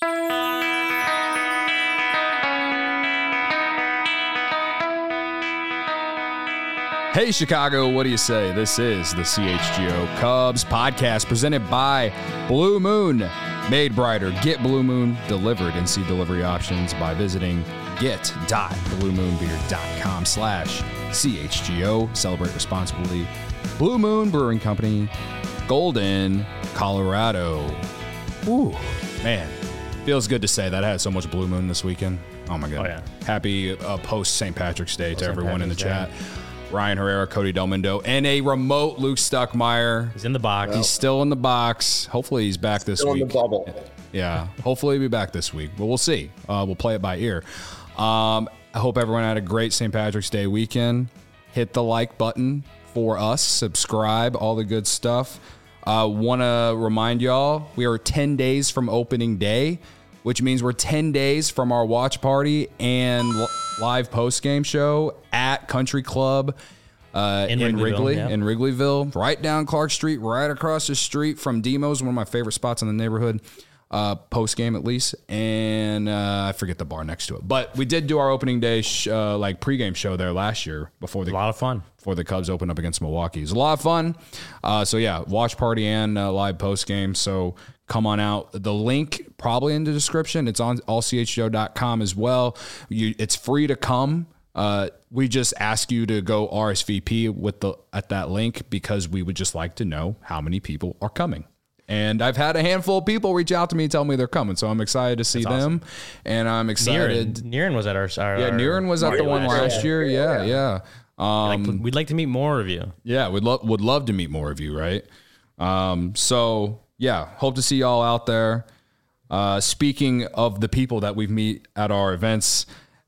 Hey, Chicago, what do you say? This is the CHGO Cubs podcast presented by Blue Moon. Made brighter. Get Blue Moon delivered and see delivery options by visiting get.bluemoonbeer.com/CHGO. Celebrate responsibly. Blue Moon Brewing Company, Golden, Colorado. Ooh, man. Feels good to say that. I had so much Blue Moon this weekend. Oh, my God. Oh, yeah. Happy post-St. Patrick's Day to everyone in the chat. Ryan Herrera, Cody Delmundo, and a remote Luke Stuckmeyer. He's in the box. He's still in the box. Hopefully he's back this week. Still in the bubble. Yeah, hopefully he'll be back this week, but we'll see. We'll play it by ear. I hope everyone had a great St. Patrick's Day weekend. Hit the like button for us. Subscribe, all the good stuff. Want to remind y'all, we are 10 days from opening day, which means we're 10 days from our watch party and live post-game show at Country Club in Wrigleyville, right down Clark Street, right across the street from Demo's, one of my favorite spots in the neighborhood, post-game at least, and I forget the bar next to it. But we did do our opening day pregame show there last year before a lot of fun. Before the Cubs opened up against Milwaukee. It was a lot of fun. So yeah, watch party and live post-game, so come on out. The link probably in the description. It's on allchgo.com as well. It's free to come. We just ask you to go RSVP at that link because we would just like to know how many people are coming. And I've had a handful of people reach out to me and tell me they're coming, so I'm excited to see them. And I'm excited. Niren was at our Niren was at the one last year. Yeah. We'd like to meet more of you. Yeah, would love to meet more of you, right? So yeah, hope to see y'all out there. Speaking of the people that we meet at our events,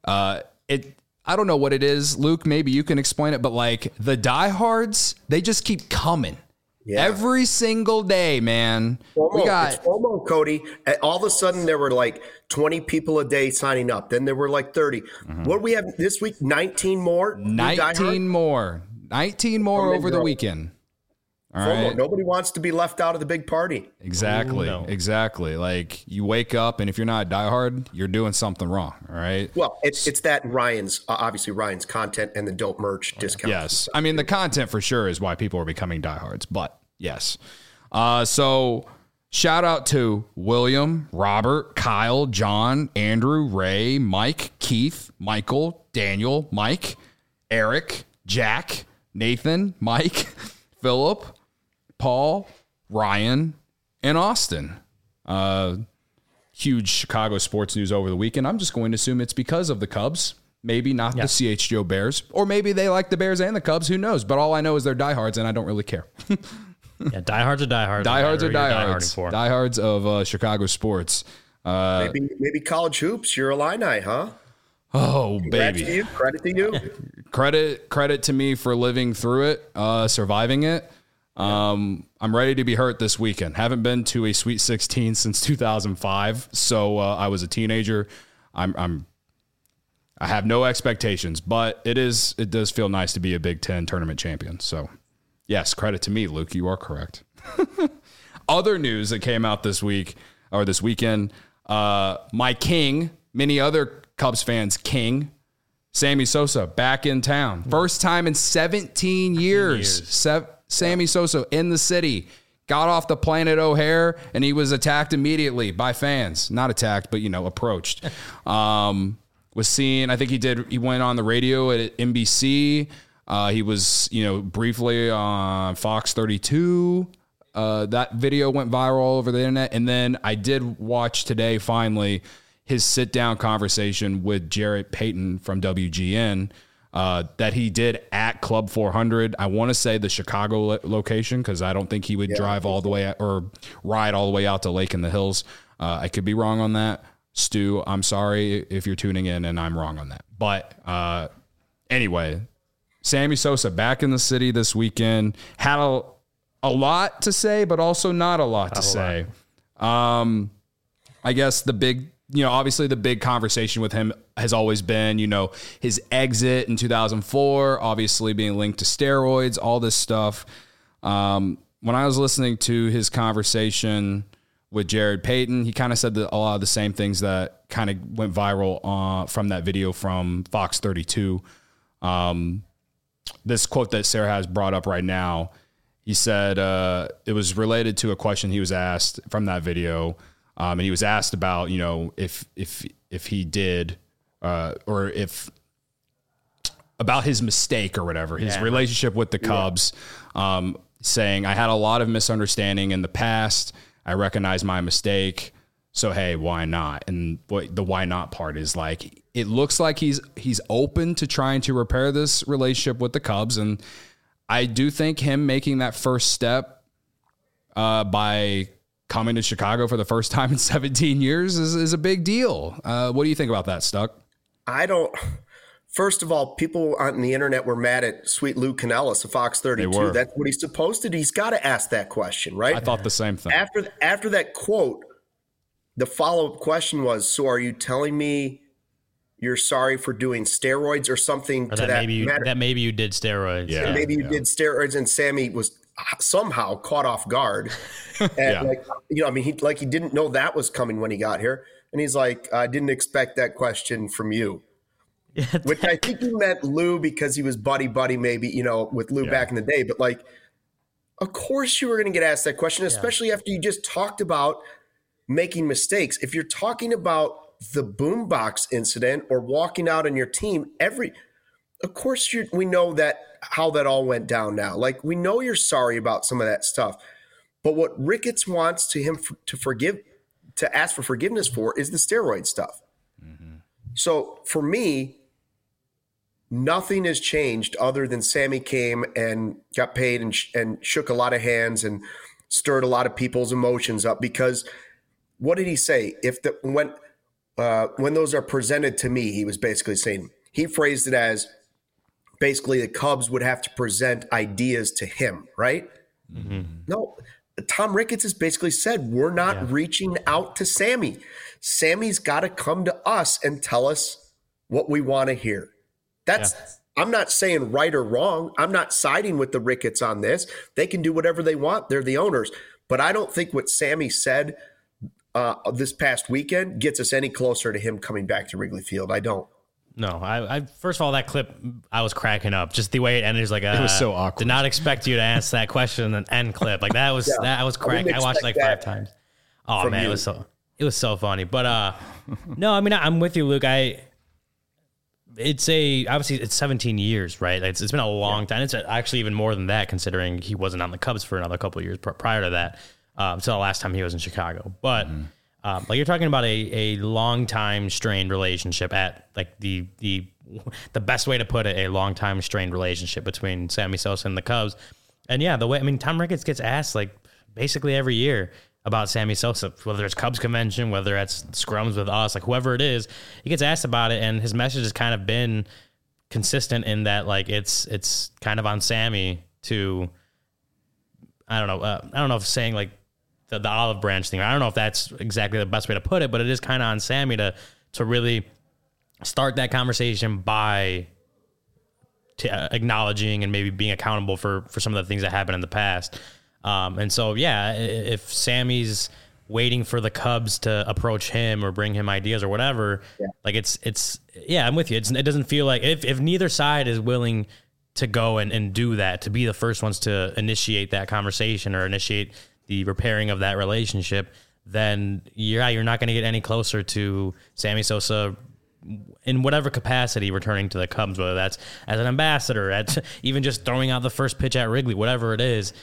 I don't know what it is, Luke, maybe you can explain it, but like the diehards, they just keep coming. Yeah. Every single day, man. It's FOMO, Cody. All of a sudden, there were like 20 people a day signing up. Then there were like 30. Mm-hmm. What do we have this week? 19 more? 19 more. 19 more over the weekend. All right. Nobody wants to be left out of the big party. Exactly. Ooh, no. Exactly. Like you wake up and if you're not a diehard, you're doing something wrong. All right. Well, it's that Ryan's content and the dope merch discount. Yes. I mean, the content for sure is why people are becoming diehards, but yes. So shout out to William, Robert, Kyle, John, Andrew, Ray, Mike, Keith, Michael, Daniel, Mike, Eric, Jack, Nathan, Mike, Philip, Paul, Ryan, and Austin. Huge Chicago sports news over the weekend. I'm just going to assume it's because of the Cubs. Maybe not the CHGO Bears. Or maybe they like the Bears and the Cubs. Who knows? But all I know is they're diehards, and I don't really care. Yeah, diehards are diehards. Diehards are diehards. Diehards of Chicago sports. Maybe college hoops. You're Illini, huh? Oh, baby. Credit to you. Credit to me for living through it, surviving it. I'm ready to be hurt this weekend. Haven't been to a Sweet 16 since 2005, so I was a teenager. I have no expectations, but it does feel nice to be a Big Ten tournament champion. So, yes, credit to me, Luke. You are correct. Other news that came out this weekend, my king, many other Cubs fans' king, Sammy Sosa, back in town. First time in 17 years. Sammy Sosa in the city. Got off the plane at O'Hare, and he was attacked immediately by fans. Not attacked, but, approached. Was seen, I think he went on the radio at NBC. He was, briefly on Fox 32. That video went viral all over the internet. And then I did watch today, finally, his sit-down conversation with Jarrett Payton from WGN that he did at Club 400. I want to say the Chicago location because I don't think he would drive all the way or ride all the way out to Lake in the Hills. I could be wrong on that. Stu, I'm sorry if you're tuning in and I'm wrong on that. But anyway, Sammy Sosa back in the city this weekend. Had a lot to say, but also not a lot to say. I guess the big, obviously the big conversation with him has always been, his exit in 2004, obviously being linked to steroids, all this stuff. When I was listening to his conversation with Jared Payton. He kind of said a lot of the same things that kind of went viral from that video from Fox 32. This quote that Sarah has brought up right now, he said it was related to a question he was asked from that video. And he was asked about, if he did or if about his mistake or whatever, his relationship with the Cubs, saying, I had a lot of misunderstanding in the past. I recognize my mistake. So, hey, why not? And the why not part is like, it looks like he's open to trying to repair this relationship with the Cubs. And I do think him making that first step by coming to Chicago for the first time in 17 years is a big deal. What do you think about that, Stuck? First of all, people on the internet were mad at Sweet Lou Canellis of Fox 32. That's what he's supposed to do. He's got to ask that question, right? I thought the same thing. After that quote, the follow-up question was, so are you telling me you're sorry for doing steroids or something or to that matter? That maybe you did steroids. Yeah. Maybe you did steroids, and Sammy was somehow caught off guard. And he didn't know that was coming when he got here. And he's like, I didn't expect that question from you. Yeah, which I think he meant Lou because he was buddy maybe, with Lou back in the day. But like, of course you were going to get asked that question, especially after you just talked about making mistakes. If you're talking about the boombox incident or walking out on your team, of course we know that how that all went down now. Like, we know you're sorry about some of that stuff. But what Ricketts wants to ask for forgiveness for is the steroid stuff. Mm-hmm. So for me, nothing has changed other than Sammy came and got paid and shook a lot of hands and stirred a lot of people's emotions up. Because what did he say? When those are presented to me, he was basically saying, he phrased it as basically the Cubs would have to present ideas to him, right? Mm-hmm. No, Tom Ricketts has basically said, we're not reaching out to Sammy. Sammy's got to come to us and tell us what we want to hear. I'm not saying right or wrong. I'm not siding with the Ricketts on this. They can do whatever they want. They're the owners. But I don't think what Sammy said this past weekend gets us any closer to him coming back to Wrigley Field. I don't. No, I first of all, that clip, I was cracking up. Just the way it ended is like, it was so awkward. Did not expect you to answer that question and end clip. Like that was cracking. I watched it like 5 times. Oh man, it was so funny. But no, I mean, I'm with you, Luke. Obviously it's 17 years, right? It's been a long time. It's actually even more than that, considering he wasn't on the Cubs for another couple of years prior to that. Until the last time he was in Chicago. But like you're talking about a long time strained relationship at like the best way to put it, a long time strained relationship between Sammy Sosa and the Cubs. And Tom Ricketts gets asked like basically every year about Sammy Sosa, whether it's Cubs convention, whether it's scrums with us, like whoever it is, he gets asked about it. And his message has kind of been consistent in that like it's kind of on Sammy to, I don't know if saying like the olive branch thing, I don't know if that's exactly the best way to put it, but it is kind of on Sammy to really start that conversation by acknowledging and maybe being accountable for some of the things that happened in the past. And so, if Sammy's waiting for the Cubs to approach him or bring him ideas or whatever, like I'm with you. It doesn't feel like if neither side is willing to go and do that, to be the first ones to initiate that conversation or initiate the repairing of that relationship, then you're not going to get any closer to Sammy Sosa in whatever capacity returning to the Cubs, whether that's as an ambassador, at even just throwing out the first pitch at Wrigley, whatever it is.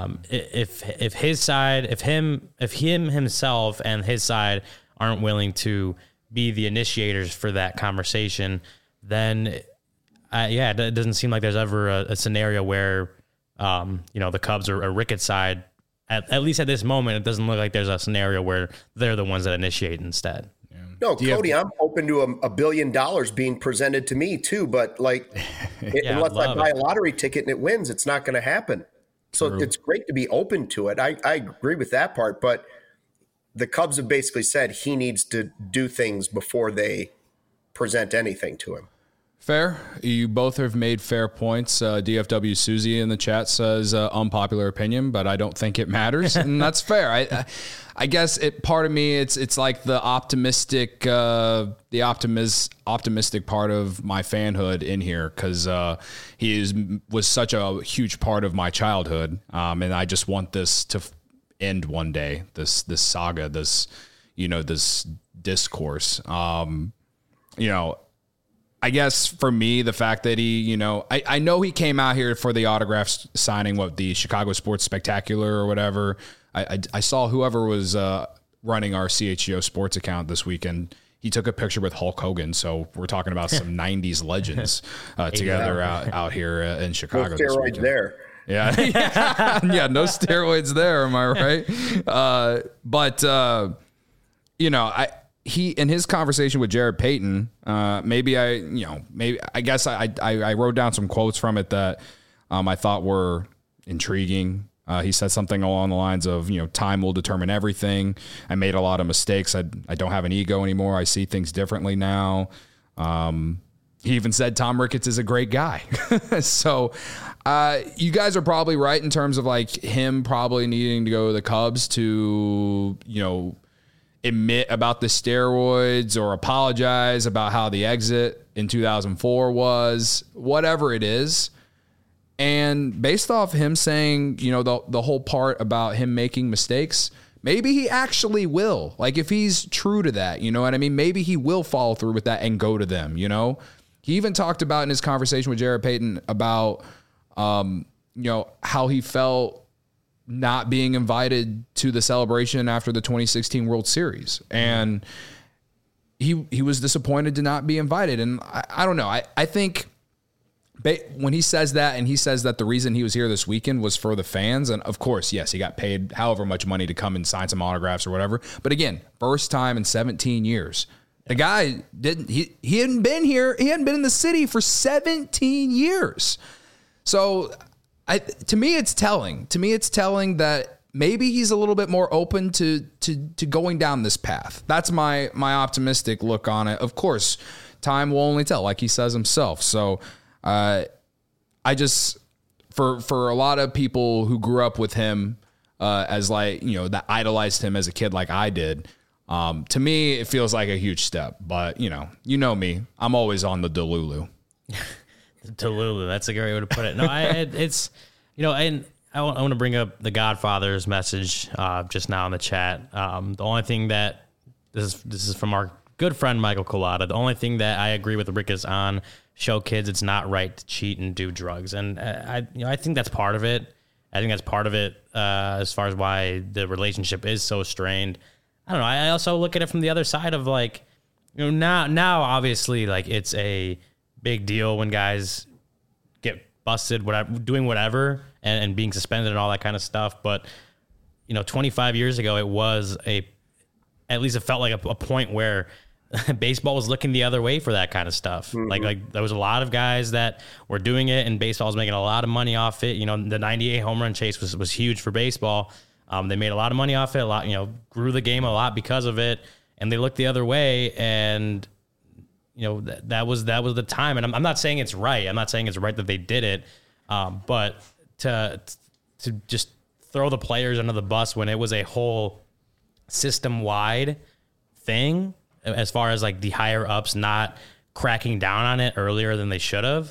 If his side, if him himself and his side aren't willing to be the initiators for that conversation, then it doesn't seem like there's ever a scenario where the Cubs or Ricketts' side, at least at this moment, it doesn't look like there's a scenario where they're the ones that initiate instead. Yeah. No, Cody, I'm open to $1 billion being presented to me too, but like, unless I buy a lottery ticket and it wins, it's not going to happen. So It's great to be open to it. I agree with that part, but the Cubs have basically said he needs to do things before they present anything to him. Fair. You both have made fair points. DFW Susie in the chat says unpopular opinion, but I don't think it matters, and that's fair. I guess part of me, it's like the optimistic part of my fanhood in here, because he was such a huge part of my childhood, and I just want this to end one day. This saga, this discourse. I guess for me, the fact that he, I know he came out here for the autograph signing, the Chicago Sports Spectacular or whatever. I saw whoever was running our CHGO sports account this weekend. He took a picture with Hulk Hogan. So we're talking about some 90s legends together out here in Chicago. No steroids there. Yeah. Yeah. No steroids there. Am I right? He, in his conversation with Jared Payton, I guess I wrote down some quotes from it that I thought were intriguing. He said something along the lines of, time will determine everything. I made a lot of mistakes. I don't have an ego anymore. I see things differently now. He even said Tom Ricketts is a great guy. So you guys are probably right in terms of like him probably needing to go to the Cubs to, admit about the steroids or apologize about how the exit in 2004 was, whatever it is. And based off him saying, the whole part about him making mistakes, maybe he actually will. Like, if he's true to that, you know what I mean? Maybe he will follow through with that and go to them, He even talked about in his conversation with Jared Payton about, how he felt not being invited to the celebration after the 2016 World Series. And he was disappointed to not be invited. And I don't know. I think when he says that, and he says that the reason he was here this weekend was for the fans. And of course, yes, he got paid however much money to come and sign some autographs or whatever. But again, first time in 17 years. The guy he hadn't been here. He hadn't been in the city for 17 years. So to me, it's telling. To me, it's telling that maybe he's a little bit more open to going down this path. That's my optimistic look on it. Of course, time will only tell, like he says himself. So I just, for a lot of people who grew up with him as that idolized him as a kid like I did, to me, it feels like a huge step. But, you know me. I'm always on the Delulu. Delulu, that's a great way to put it. No, it's, and I want to bring up the Godfather's message just now in the chat. The only thing that this is from our good friend Michael Collada. The only thing that I agree with Rick is on: show kids it's not right to cheat and do drugs, and I think that's part of it. I think that's part of it as far as why the relationship is so strained. I don't know. I also look at it from the other side of now obviously it's a big deal when guys get busted, doing whatever and being suspended and all that kind of stuff. But 25 years ago, at least it felt like a point where baseball was looking the other way for that kind of stuff. Mm-hmm. Like there was a lot of guys that were doing it, and baseball was making a lot of money off it. The 98 home run chase was huge for baseball. They made a lot of money off it. A lot, grew the game a lot because of it, and they looked the other way. And that was the time. And I'm not saying it's right. I'm not saying it's right that they did it, but to just throw the players under the bus when it was a whole system wide thing, as far as the higher ups not cracking down on it earlier than they should have.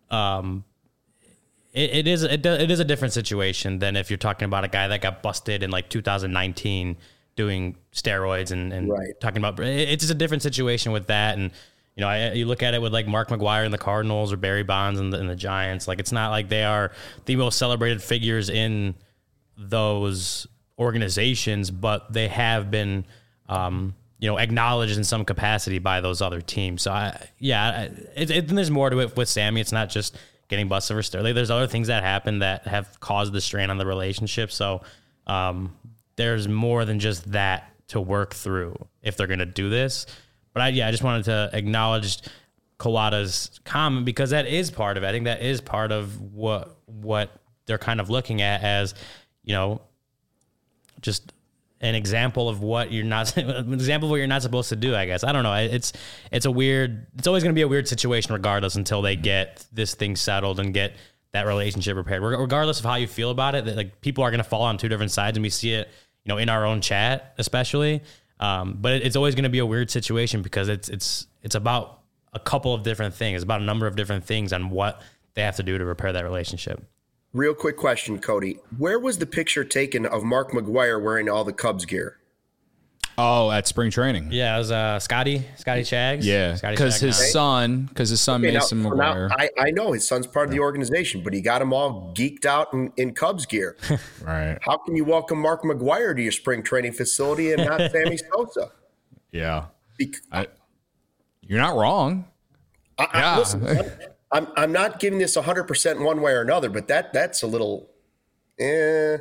It is a different situation than if you're talking about a guy that got busted in 2019 doing steroids and right. Talking about, it's just a different situation with that. And, you look at it with Mark McGwire and the Cardinals or Barry Bonds and the Giants. It's not like they are the most celebrated figures in those organizations, but they have been, acknowledged in some capacity by those other teams. So there's more to it with Sammy. It's not just getting busted for steroids. There's other things that happen that have caused the strain on the relationship. So there's more than just that to work through if they're going to do this. But I just wanted to acknowledge Collada's comment, because that is part of it. I think that is part of what they're kind of looking at as, just an example of what you're not supposed to do, I guess. I don't know. It's always going to be a weird situation regardless until they get this thing settled and get that relationship repaired. Regardless of how you feel about it, that like people are going to fall on two different sides, and we see it, in our own chat, especially. But it's always going to be a weird situation because it's about a couple of different things. It's about a number of different things on what they have to do to repair that relationship. Real quick question, Cody. Where was the picture taken of Mark McGwire wearing all the Cubs gear? Oh, at spring training. Yeah, it was Scotty Chags. Yeah, because his son Mason McGwire. Now, I know his son's part of the organization, but he got him all geeked out in Cubs gear. Right. How can you welcome Mark McGwire to your spring training facility and not Sammy Sosa? Yeah. You're not wrong. Listen, I'm not giving this 100% one way or another, but that's a little, Yeah.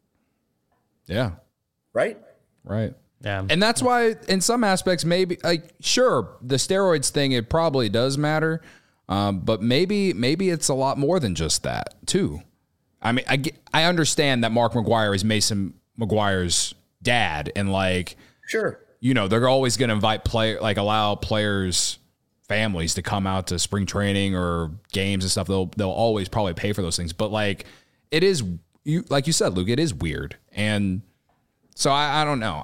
Right. Right. Yeah. And that's why in some aspects, maybe sure, the steroids thing, it probably does matter. But maybe it's a lot more than just that too. I mean, I understand that Mark McGwire is Mason McGwire's dad, and sure, they're always going to allow players' families to come out to spring training or games and stuff. They'll always probably pay for those things. But it is, like you said, Luke, it is weird. And so I don't know.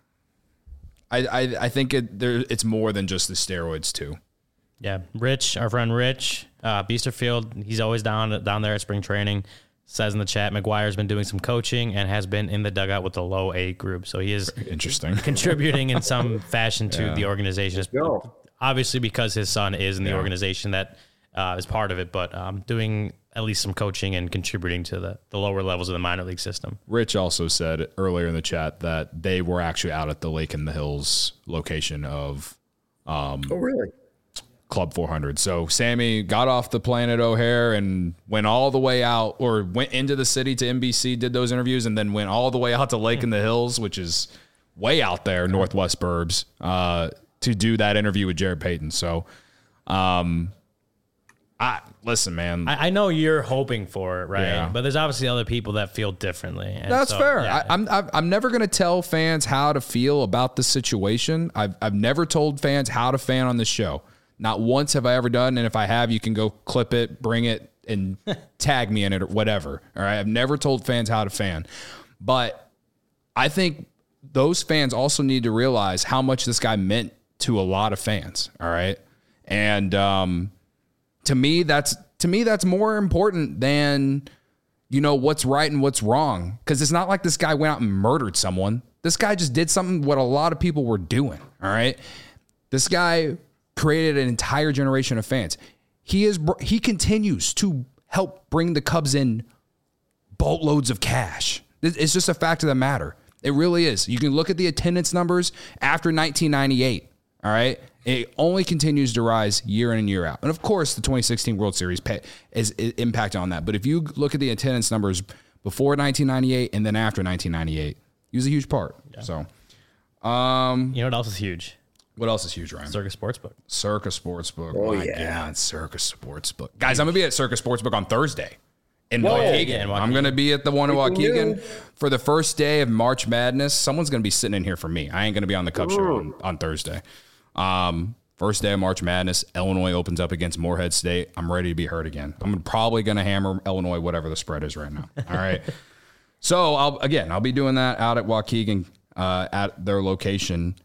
I think it's more than just the steroids too. Yeah. Rich, our friend Rich, Biesterfield, he's always down there at spring training. Says in the chat, McGuire's been doing some coaching and has been in the dugout with the low A group. So he is interesting contributing in some fashion to the organization. Obviously, because his son is in the organization that is part of it, but doing at least some coaching and contributing to the lower levels of the minor league system. Rich also said earlier in the chat that they were actually out at the Lake in the Hills location of oh, really? Club 400. So Sammy got off the plane at O'Hare and went all the way out, or went into the city to NBC, did those interviews, and then went all the way out to Lake in the Hills, which is way out there, Northwest Burbs, to do that interview with Jared Payton. So, listen, man. I know you're hoping for it, right? Yeah. But there's obviously other people that feel differently. And that's fair. Yeah. I'm never going to tell fans how to feel about the situation. I've never told fans how to fan on this show. Not once have I ever done. And if I have, you can go clip it, bring it, and tag me in it or whatever. All right. I've never told fans how to fan. But I think those fans also need to realize how much this guy meant to a lot of fans. All right. And to me, that's more important than, what's right and what's wrong. Because it's not like this guy went out and murdered someone. This guy just did something what a lot of people were doing. All right. This guy created an entire generation of fans. He continues to help bring the Cubs in boatloads of cash. It's just a fact of the matter. It really is. You can look at the attendance numbers after 1998. All right. It only continues to rise year in and year out. And of course, the 2016 World Series is impact on that. But if you look at the attendance numbers before 1998 and then after 1998, he was a huge part. Yeah. So, you know what else is huge? What else is huge, Ryan? Circus Sportsbook. Circus Sportsbook. Oh, my God, Circus Sportsbook. Guys, I'm going to be at Circus Sportsbook on Thursday in Waukegan. Yeah, I'm going to be at the one in Waukegan for the first day of March Madness. Someone's going to be sitting in here for me. I ain't going to be on the Cubs show on Thursday. First day of March Madness, Illinois opens up against Morehead State. I'm ready to be hurt again. I'm probably going to hammer Illinois, whatever the spread is right now. All right. So I'll be doing that out at Waukegan at their location.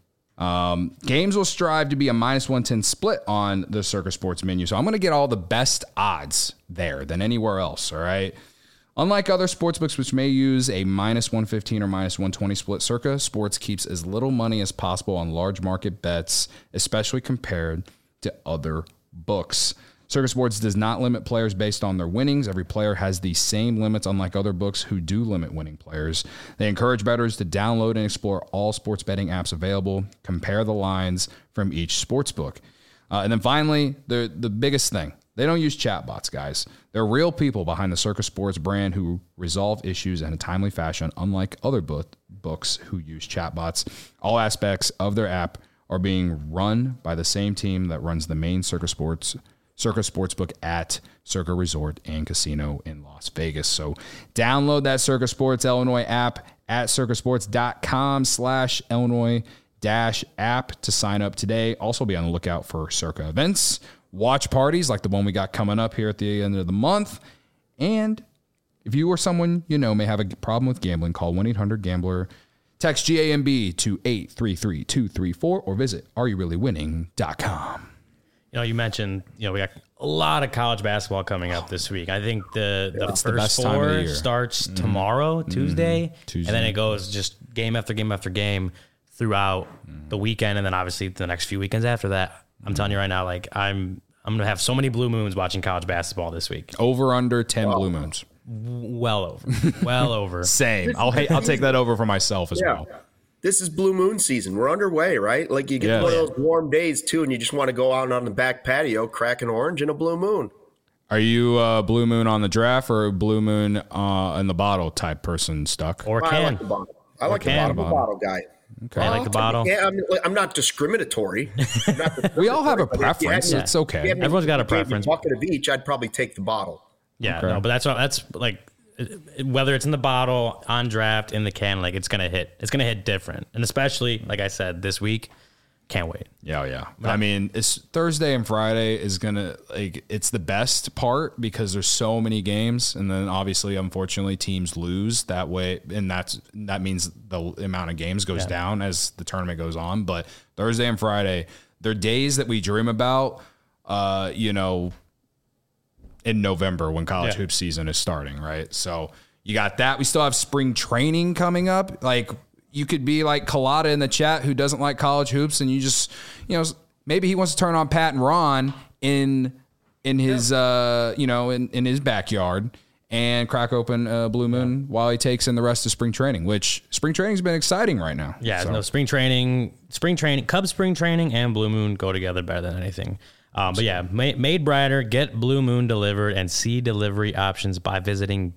Games will strive to be a -110 split on the Circus Sports menu. So I'm going to get all the best odds there than anywhere else. All right. Unlike other sportsbooks, which may use a -115 or -120 split, Circa Sports keeps as little money as possible on large market bets, especially compared to other books. Circa Sports does not limit players based on their winnings. Every player has the same limits, unlike other books who do limit winning players. They encourage bettors to download and explore all sports betting apps available, compare the lines from each sports book. And then finally, the biggest thing, they don't use chatbots, guys. They're real people behind the Circa Sports brand who resolve issues in a timely fashion, unlike other books who use chatbots. All aspects of their app are being run by the same team that runs the main Circa Sports Circa Sportsbook at Circa Resort and Casino in Las Vegas. So download that Circa Sports Illinois app at circasports.com/Illinois-app to sign up today. Also be on the lookout for Circa events, watch parties like the one we got coming up here at the end of the month. And if you or someone you know may have a problem with gambling, call 1-800-GAMBLER. Text GAMB to 833-234 or visit areyourreallywinning.com. You mentioned, we got a lot of college basketball coming up this week. I think the first four starts tomorrow, Tuesday, and then it goes just game after game after game throughout the weekend, and then obviously the next few weekends after that. I'm telling you right now, I'm going to have so many blue moons watching college basketball this week. Over under 10 blue moons. Well over. Same. I'll take that over for myself as well. This is blue moon season. We're underway, right? Like you get one of those warm days too, and you just want to go out on the back patio, crack an orange and a blue moon. Are you a blue moon on the draft or a blue moon in the bottle type person, Stuck? Or can? I like the bottle. I like the bottle guy. Okay. I like the bottle. Yeah, I'm not discriminatory. We all have a preference. It's okay. Everyone's got a preference. Bucket of each, I'd probably take the bottle. Yeah, okay. No, but that's like whether it's in the bottle, on draft, in the can, like it's gonna hit. It's gonna hit different, and especially like I said this week, can't wait. Yeah. I mean, it's Thursday and Friday is gonna it's the best part because there's so many games, and then obviously, unfortunately, teams lose that way, and that means the amount of games goes down as the tournament goes on. But Thursday and Friday, they're days that we dream about. In November when college hoop season is starting, right? So you got that. We still have spring training coming up. Like you could be like Collada in the chat who doesn't like college hoops, and you just, maybe he wants to turn on Pat and Ron in his, in his backyard and crack open Blue Moon while he takes in the rest of spring training, which spring training's been exciting right now. Yeah, no, spring training, Cubs spring training and Blue Moon go together better than anything. But yeah, made brighter, get Blue Moon delivered and see delivery options by visiting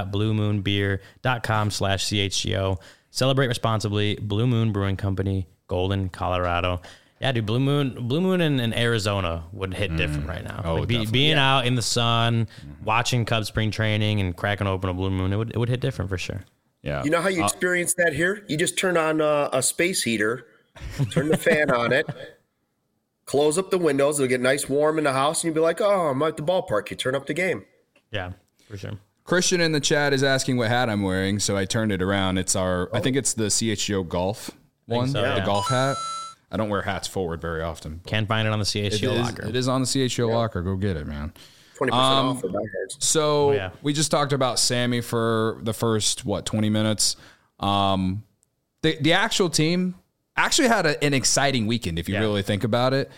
get.bluemoonbeer.com/CHGO. Celebrate responsibly. Blue Moon Brewing Company, Golden, Colorado. Yeah, dude, Blue Moon in Arizona would hit different right now. Oh, being out in the sun, watching Cubs spring training and cracking open a Blue Moon, it would hit different for sure. Yeah. You know how you experience that here? You just turn on a space heater, turn the fan on it, close up the windows. It'll get nice warm in the house, and you'll be like, oh, I'm at the ballpark. You turn up the game. Yeah, for sure. Christian in the chat is asking what hat I'm wearing, so I turned it around. It's I think it's the CHGO golf one, the golf hat. I don't wear hats forward very often. Can't find it on the CHGO locker. It is on the CHGO locker. Go get it, man. 20% off for diehards. So we just talked about Sammy for the first, 20 minutes. The actual team actually had an exciting weekend, if you really think about it.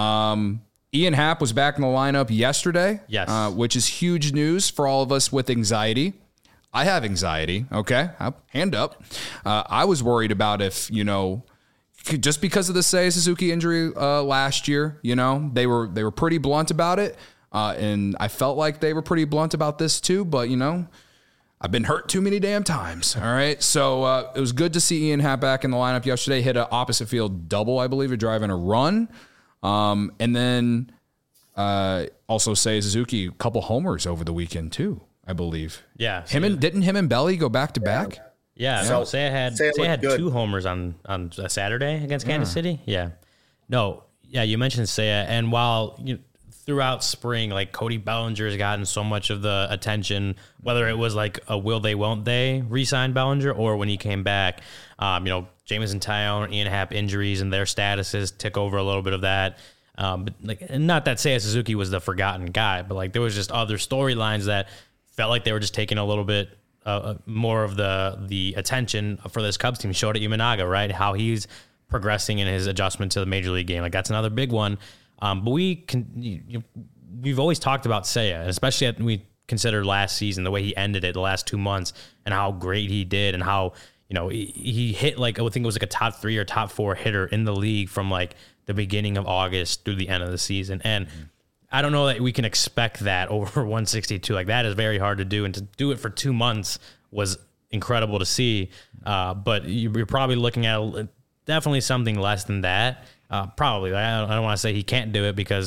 Ian Happ was back in the lineup yesterday, which is huge news for all of us with anxiety. I have anxiety, okay? Hand up. I was worried about if, just because of the Seiya Suzuki injury last year, they were pretty blunt about it, and I felt like they were pretty blunt about this too, but, I've been hurt too many damn times. All right. So it was good to see Ian Happ back in the lineup yesterday. Hit an opposite field double, I believe, driving a run. And then also Seiya Suzuki, a couple homers over the weekend too, I believe. Yeah. Didn't him and Belly go back to back? Yeah. So Seiya had 2 homers on a Saturday against Kansas City. Yeah. No. Yeah. You mentioned Seiya, and while throughout spring, like Cody Bellinger has gotten so much of the attention, whether it was like a will they, won't they re-sign Bellinger, or when he came back, Jamison Tyone, Ian Happ injuries and their statuses took over a little bit of that. But not that Seiya Suzuki was the forgotten guy, but there was just other storylines that felt like they were just taking a little bit more of the attention for this Cubs team. Showed at Imanaga, right? How he's progressing in his adjustment to the major league game. That's another big one. But we've always talked about Seiya, and especially we consider last season, the way he ended it, the last 2 months, and how great he did, and how he hit I think it was a top 3 or top 4 hitter in the league from the beginning of August through the end of the season. And I don't know that we can expect that over 162. That is very hard to do, and to do it for 2 months was incredible to see. But you're probably looking at definitely something less than that. Probably. I don't want to say he can't do it, because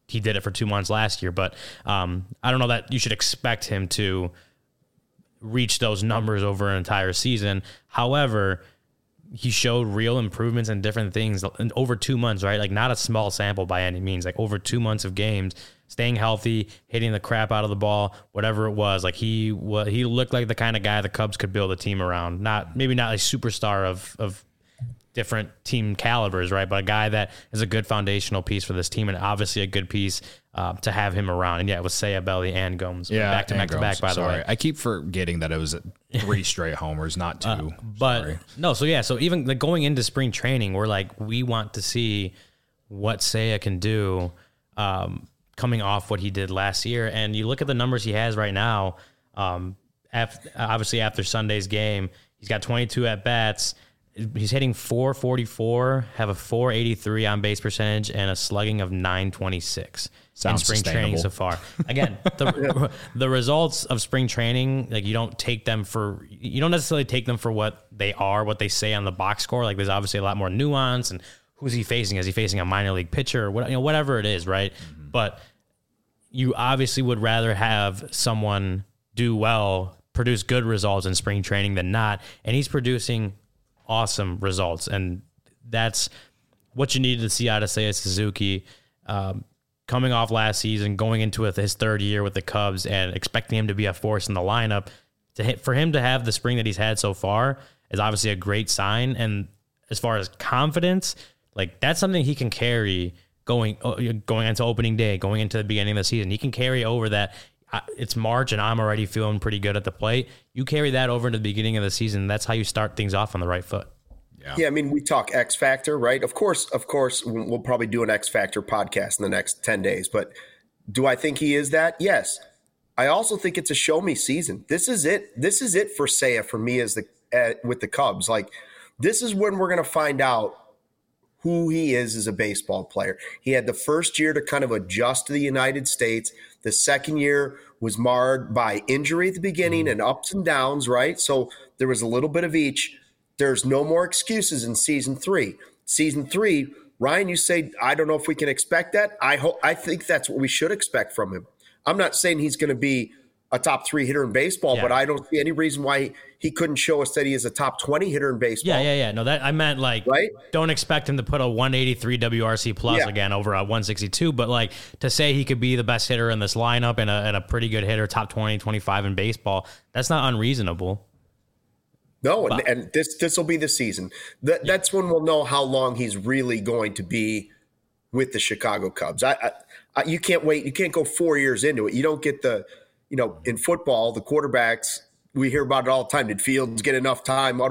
he did it for 2 months last year. But I don't know that you should expect him to reach those numbers over an entire season. However, he showed real improvements in different things in over 2 months, right? Like not a small sample by any means, like over 2 months of games, staying healthy, hitting the crap out of the ball, whatever it was. Like he looked like the kind of guy the Cubs could build a team around. Maybe not a superstar of different team calibers, right? But a guy that is a good foundational piece for this team, and obviously a good piece to have him around. And yeah, it was Seiya, Belly, and Gomes. Yeah, back to back, by the way. I keep forgetting that it was 3 straight homers, not 2. So even like going into spring training, we're like, we want to see what Seiya can do coming off what he did last year. And you look at the numbers he has right now, obviously after Sunday's game, he's got 22 at-bats. He's hitting 444, have a 483 on base percentage, and a slugging of 926 in spring training so far. Again, the results of spring training, like you don't necessarily take them for what they are, what they say on the box score. Like there's obviously a lot more nuance, and who's he facing? Is he facing a minor league pitcher or whatever it is, right? Mm-hmm. But you obviously would rather have someone do well, produce good results in spring training than not, and he's producing awesome results, and that's what you needed to see out of Seiya Suzuki coming off last season, going into his 3rd year with the Cubs, and expecting him to be a force in the lineup. For him to have the spring that he's had so far is obviously a great sign, and as far as confidence, like that's something he can carry going into opening day, going into the beginning of the season. He can carry over that. It's March and I'm already feeling pretty good at the plate. You carry that over into the beginning of the season. That's how you start things off on the right foot. Yeah, I mean, we talk X Factor, right? Of course, we'll probably do an X Factor podcast in the next 10 days. But do I think he is that? Yes. I also think it's a show me season. This is it. This is it for Seiya, for me with the Cubs. Like, this is when we're going to find out who he is as a baseball player. He had the first year to kind of adjust to the United States. The second year was marred by injury at the beginning and ups and downs, right? So there was a little bit of each. There's no more excuses in season 3. Season 3, Ryan, you say, I don't know if we can expect that. I think that's what we should expect from him. I'm not saying he's going to be a top 3 hitter in baseball, but I don't see any reason why he couldn't show us that he is a top 20 hitter in baseball. Yeah. No, that I meant like, right? Don't expect him to put a 183 WRC plus again over a 162, but like to say he could be the best hitter in this lineup and a pretty good hitter, top 20, 25 in baseball, that's not unreasonable. No, and this will be the season. That's when we'll know how long he's really going to be with the Chicago Cubs. You can't wait. You can't go 4 years into it. You don't get in football, the quarterbacks, we hear about it all the time. Did Fields get enough time?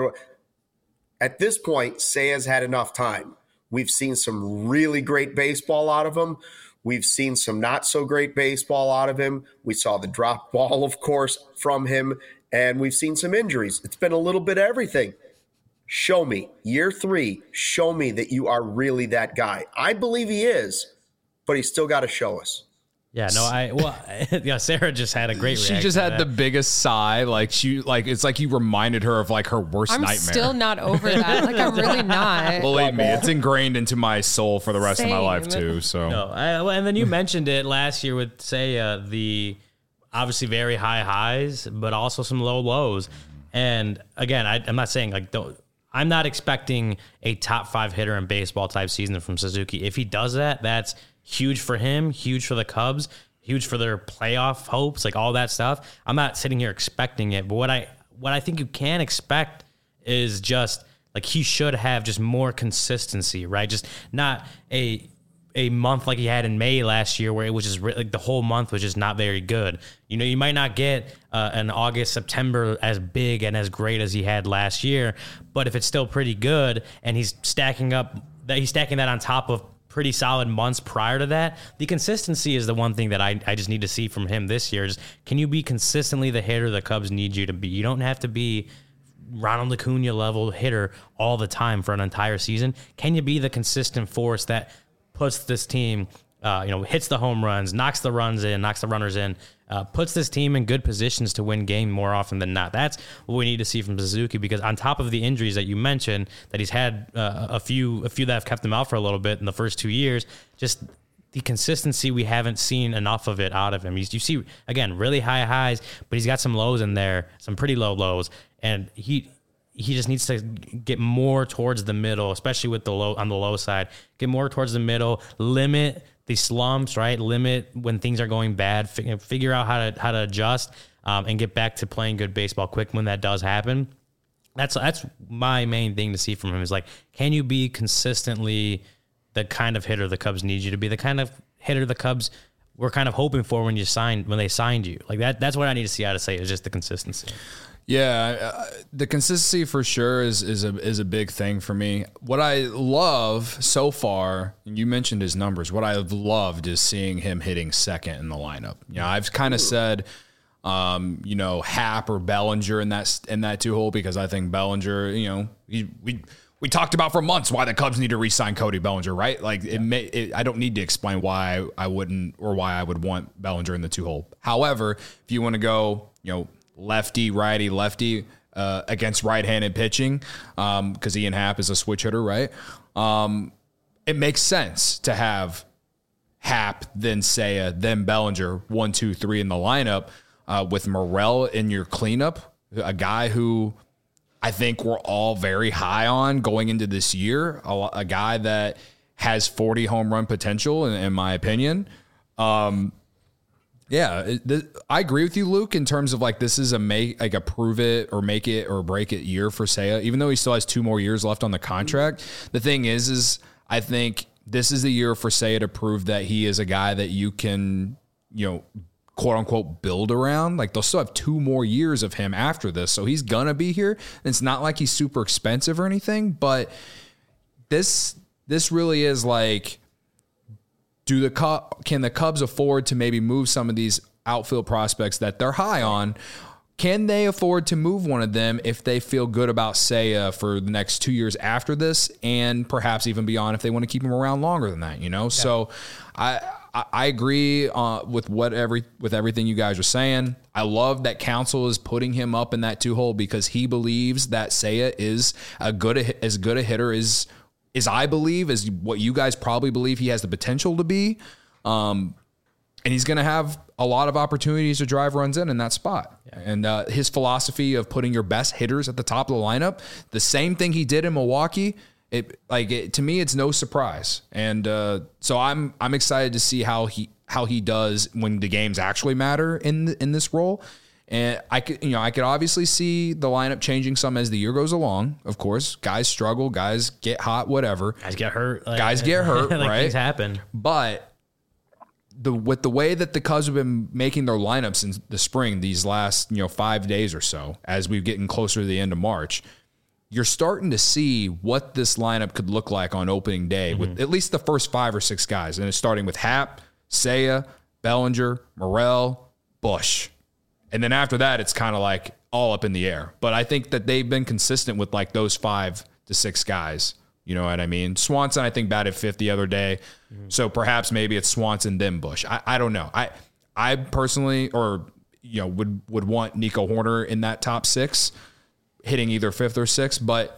At this point, Seiya's had enough time. We've seen some really great baseball out of him. We've seen some not so great baseball out of him. We saw the drop ball, of course, from him, and we've seen some injuries. It's been a little bit of everything. Show me, year 3, show me that you are really that guy. I believe he is, but he's still got to show us. Yeah, no, Sarah just had a great reaction. She just had the biggest sigh. It's like you reminded her of like her worst nightmare. I'm still not over that. Like, I'm really not. Believe me, it's ingrained into my soul for the rest of my life too. So, and then you mentioned it last year with Seiya, the obviously very high highs, but also some low lows. And again, I'm not saying I'm not expecting a top 5 hitter in baseball type season from Suzuki. If he does that, that's huge for him, huge for the Cubs, huge for their playoff hopes, like all that stuff. I'm not sitting here expecting it, but what I think you can expect is just like he should have just more consistency, right? Just not a month like he had in May last year where it was just like the whole month was just not very good. You might not get an August, September as big and as great as he had last year, but if it's still pretty good and he's stacking that on top of pretty solid months prior to that, the consistency is the one thing that I just need to see from him this year. Just, can you be consistently the hitter the Cubs need you to be? You don't have to be Ronald Acuna level hitter all the time for an entire season. Can you be the consistent force that puts this team, hits the home runs, knocks the runners in, puts this team in good positions to win game more often than not? That's what we need to see from Suzuki, because on top of the injuries that you mentioned, that he's had a few that have kept him out for a little bit in the first 2 years, just the consistency, we haven't seen enough of it out of him. You see, again, really high highs, but he's got some lows in there, some pretty low lows, and he just needs to get more towards the middle, especially with the low on the low side. Get more towards the middle, limit the slumps, right? Limit when things are going bad. Figure out how to adjust and get back to playing good baseball quick when that does happen. That's my main thing to see from him is like, can you be consistently the kind of hitter the Cubs need you to be, the kind of hitter the Cubs were kind of hoping for when they signed you? Like that's what I need to see out of Seiya, is just the consistency. Yeah, the consistency for sure is a big thing for me. What I love so far, and you mentioned his numbers, what I've loved is seeing him hitting second in the lineup. You know, I've kind of said, Happ or Bellinger in that two hole, because I think Bellinger, we talked about for months why the Cubs need to re-sign Cody Bellinger, right? Like I don't need to explain why I wouldn't, or why I would want Bellinger in the two hole. However, if you want to go, lefty, righty, lefty against right-handed pitching, because Ian Happ is a switch hitter, right? It makes sense to have Happ, then Seiya, then Bellinger, 1, 2, 3 in the lineup, with Morel in your cleanup, a guy who I think we're all very high on going into this year, a guy that has 40 home run potential, in my opinion. I agree with you, Luke, in terms of like, this is a prove it or make it or break it year for Seiya, even though he still has 2 more years left on the contract. The thing is I think this is the year for Seiya to prove that he is a guy that you can, quote unquote, build around. Like, they'll still have 2 more years of him after this. So he's going to be here. And it's not like he's super expensive or anything, but this really is like, can the Cubs afford to maybe move some of these outfield prospects that they're high on? Can they afford to move one of them if they feel good about Seiya for the next 2 years after this, and perhaps even beyond if they want to keep him around longer than that? Yeah. So I agree with everything you guys are saying. I love that Counsell is putting him up in that 2 hole, because he believes that Seiya is as good a hitter as I believe, is what you guys probably believe he has the potential to be. And he's going to have a lot of opportunities to drive runs in that spot. Yeah. And his philosophy of putting your best hitters at the top of the lineup, the same thing he did in Milwaukee, to me, it's no surprise. And so I'm excited to see how he does when the games actually matter in this role. And I could obviously see the lineup changing some as the year goes along. Of course, guys struggle, guys get hot, whatever. Guys get hurt, like, right? Things happen. But with the way that the Cubs have been making their lineups in the spring, these last 5 days or so, as we're getting closer to the end of March, you're starting to see what this lineup could look like on opening day with at least the first 5 or 6 guys, and it's starting with Happ, Seiya, Bellinger, Morel, Bush. And then after that, it's kind of like all up in the air. But I think that they've been consistent with like those 5 to 6 guys. You know what I mean? Swanson, I think, batted 5th the other day. So perhaps maybe it's Swanson, then Bush. I don't know. I personally, would want Nico Horner in that top 6, hitting either 5th or 6th. But,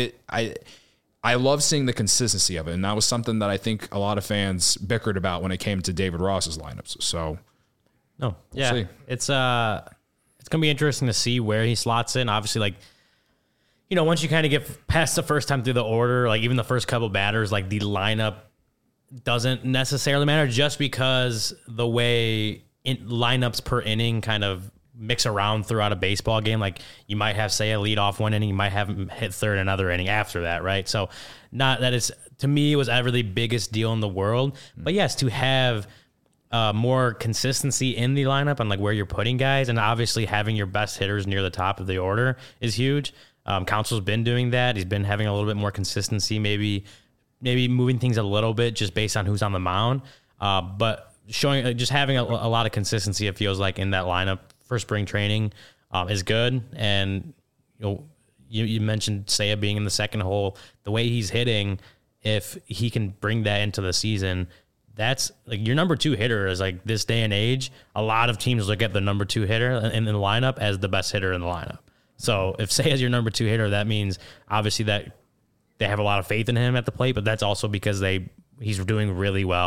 I love seeing the consistency of it. And that was something that I think a lot of fans bickered about when it came to David Ross's lineups. So... No, yeah, we'll it's gonna be interesting to see where he slots in. Obviously, once you kind of get past the first time through the order, like even the first couple batters, like the lineup doesn't necessarily matter, just because the way lineups per inning kind of mix around throughout a baseball game. Like you might have Seiya lead off one inning, you might have him hit third another inning after that, right? So not that it's, to me, it was ever the biggest deal in the world, but yes, to have more consistency in the lineup and like where you're putting guys, and obviously having your best hitters near the top of the order is huge. Counsell's been doing that. He's been having a little bit more consistency, maybe moving things a little bit just based on who's on the mound. But showing, just having a lot of consistency, it feels like, in that lineup for spring training is good. And you mentioned Seiya being in the second hole. The way he's hitting, if he can bring that into the season, that's like your number 2 hitter is like, this day and age, a lot of teams look at the number 2 hitter in the lineup as the best hitter in the lineup. So if Seiya's your number 2 hitter, that means obviously that they have a lot of faith in him at the plate, but that's also because he's doing really well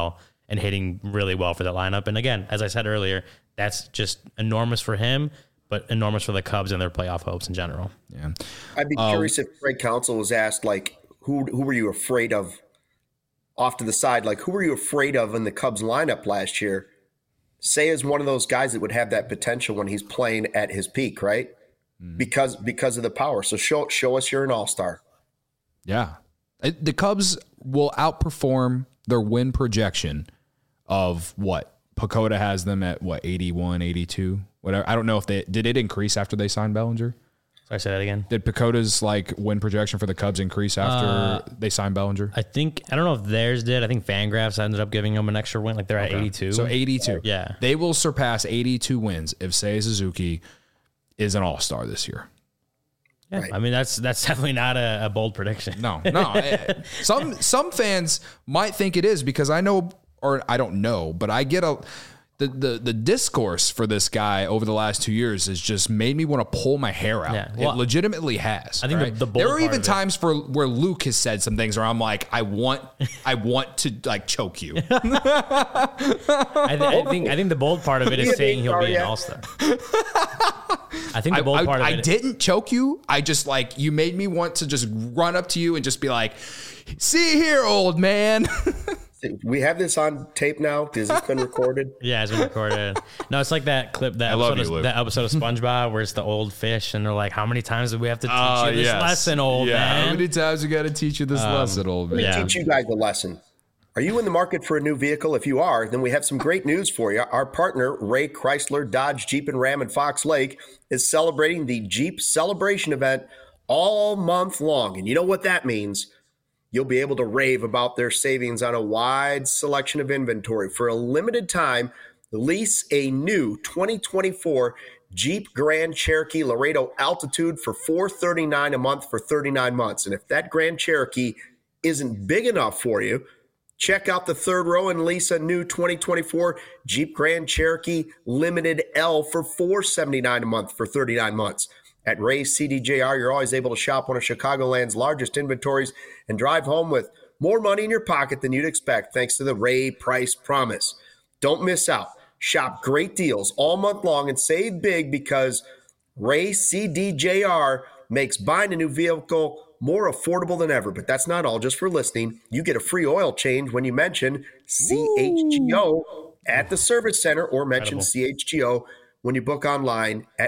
and hitting really well for that lineup. And again, as I said earlier, that's just enormous for him, but enormous for the Cubs and their playoff hopes in general. Yeah. I'd be curious if Greg Counsell was asked, like, who were you afraid of off to the side? Like, who were you afraid of in the Cubs lineup last year? Seiya is one of those guys that would have that potential when he's playing at his peak, right? Because of the power. So show us you're an all-star. Yeah. The Cubs will outperform their win projection of what? Pacoda has them at what, 81, 82? Whatever. I don't know if did it increase after they signed Bellinger? Sorry, say that again. Did Pacoda's like win projection for the Cubs increase after they signed Bellinger? I don't know if theirs did. I think Fangraphs ended up giving them an extra win. Like they're at 82. So 82. Yeah. They will surpass 82 wins if Seiya Suzuki is an all-star this year. Yeah. Right. I mean, that's definitely not a bold prediction. No. Some fans might think it is because I know, or I don't know, but I get the discourse for this guy over the last 2 years has just made me want to pull my hair out. Yeah. Well, it legitimately has. I think right? the bold there are part even of it- times where Luke has said some things where I'm like, I want to like choke you. I think the bold part of it is saying he'll be an all-star. I think the bold part of it. I didn't choke you. I just like, you made me want to just run up to you and just be like, see here, old man. We have this on tape now because it's been recorded. Yeah, it's been recorded. No, it's like that clip, that episode of SpongeBob where it's the old fish and they're like, how many times do we have to teach you this lesson, old man? How many times we got to teach you this lesson, old man? Let me teach you guys a lesson. Are you in the market for a new vehicle? If you are, then we have some great news for you. Our partner, Ray Chrysler, Dodge, Jeep, and Ram in Fox Lake, is celebrating the Jeep Celebration event all month long. And you know what that means? You'll be able to rave about their savings on a wide selection of inventory. For a limited time, lease a new 2024 Jeep Grand Cherokee Laredo Altitude for $439 a month for 39 months. And if that Grand Cherokee isn't big enough for you, check out the third row and lease a new 2024 Jeep Grand Cherokee Limited L for $479 a month for 39 months. At Ray's CDJR, you're always able to shop one of Chicagoland's largest inventories and drive home with more money in your pocket than you'd expect thanks to the Ray Price Promise. Don't miss out. Shop great deals all month long and save big because Ray CDJR makes buying a new vehicle more affordable than ever. But that's not all. Just for listening, you get a free oil change when you mention CHGO at the service center or mention CHGO when you book online at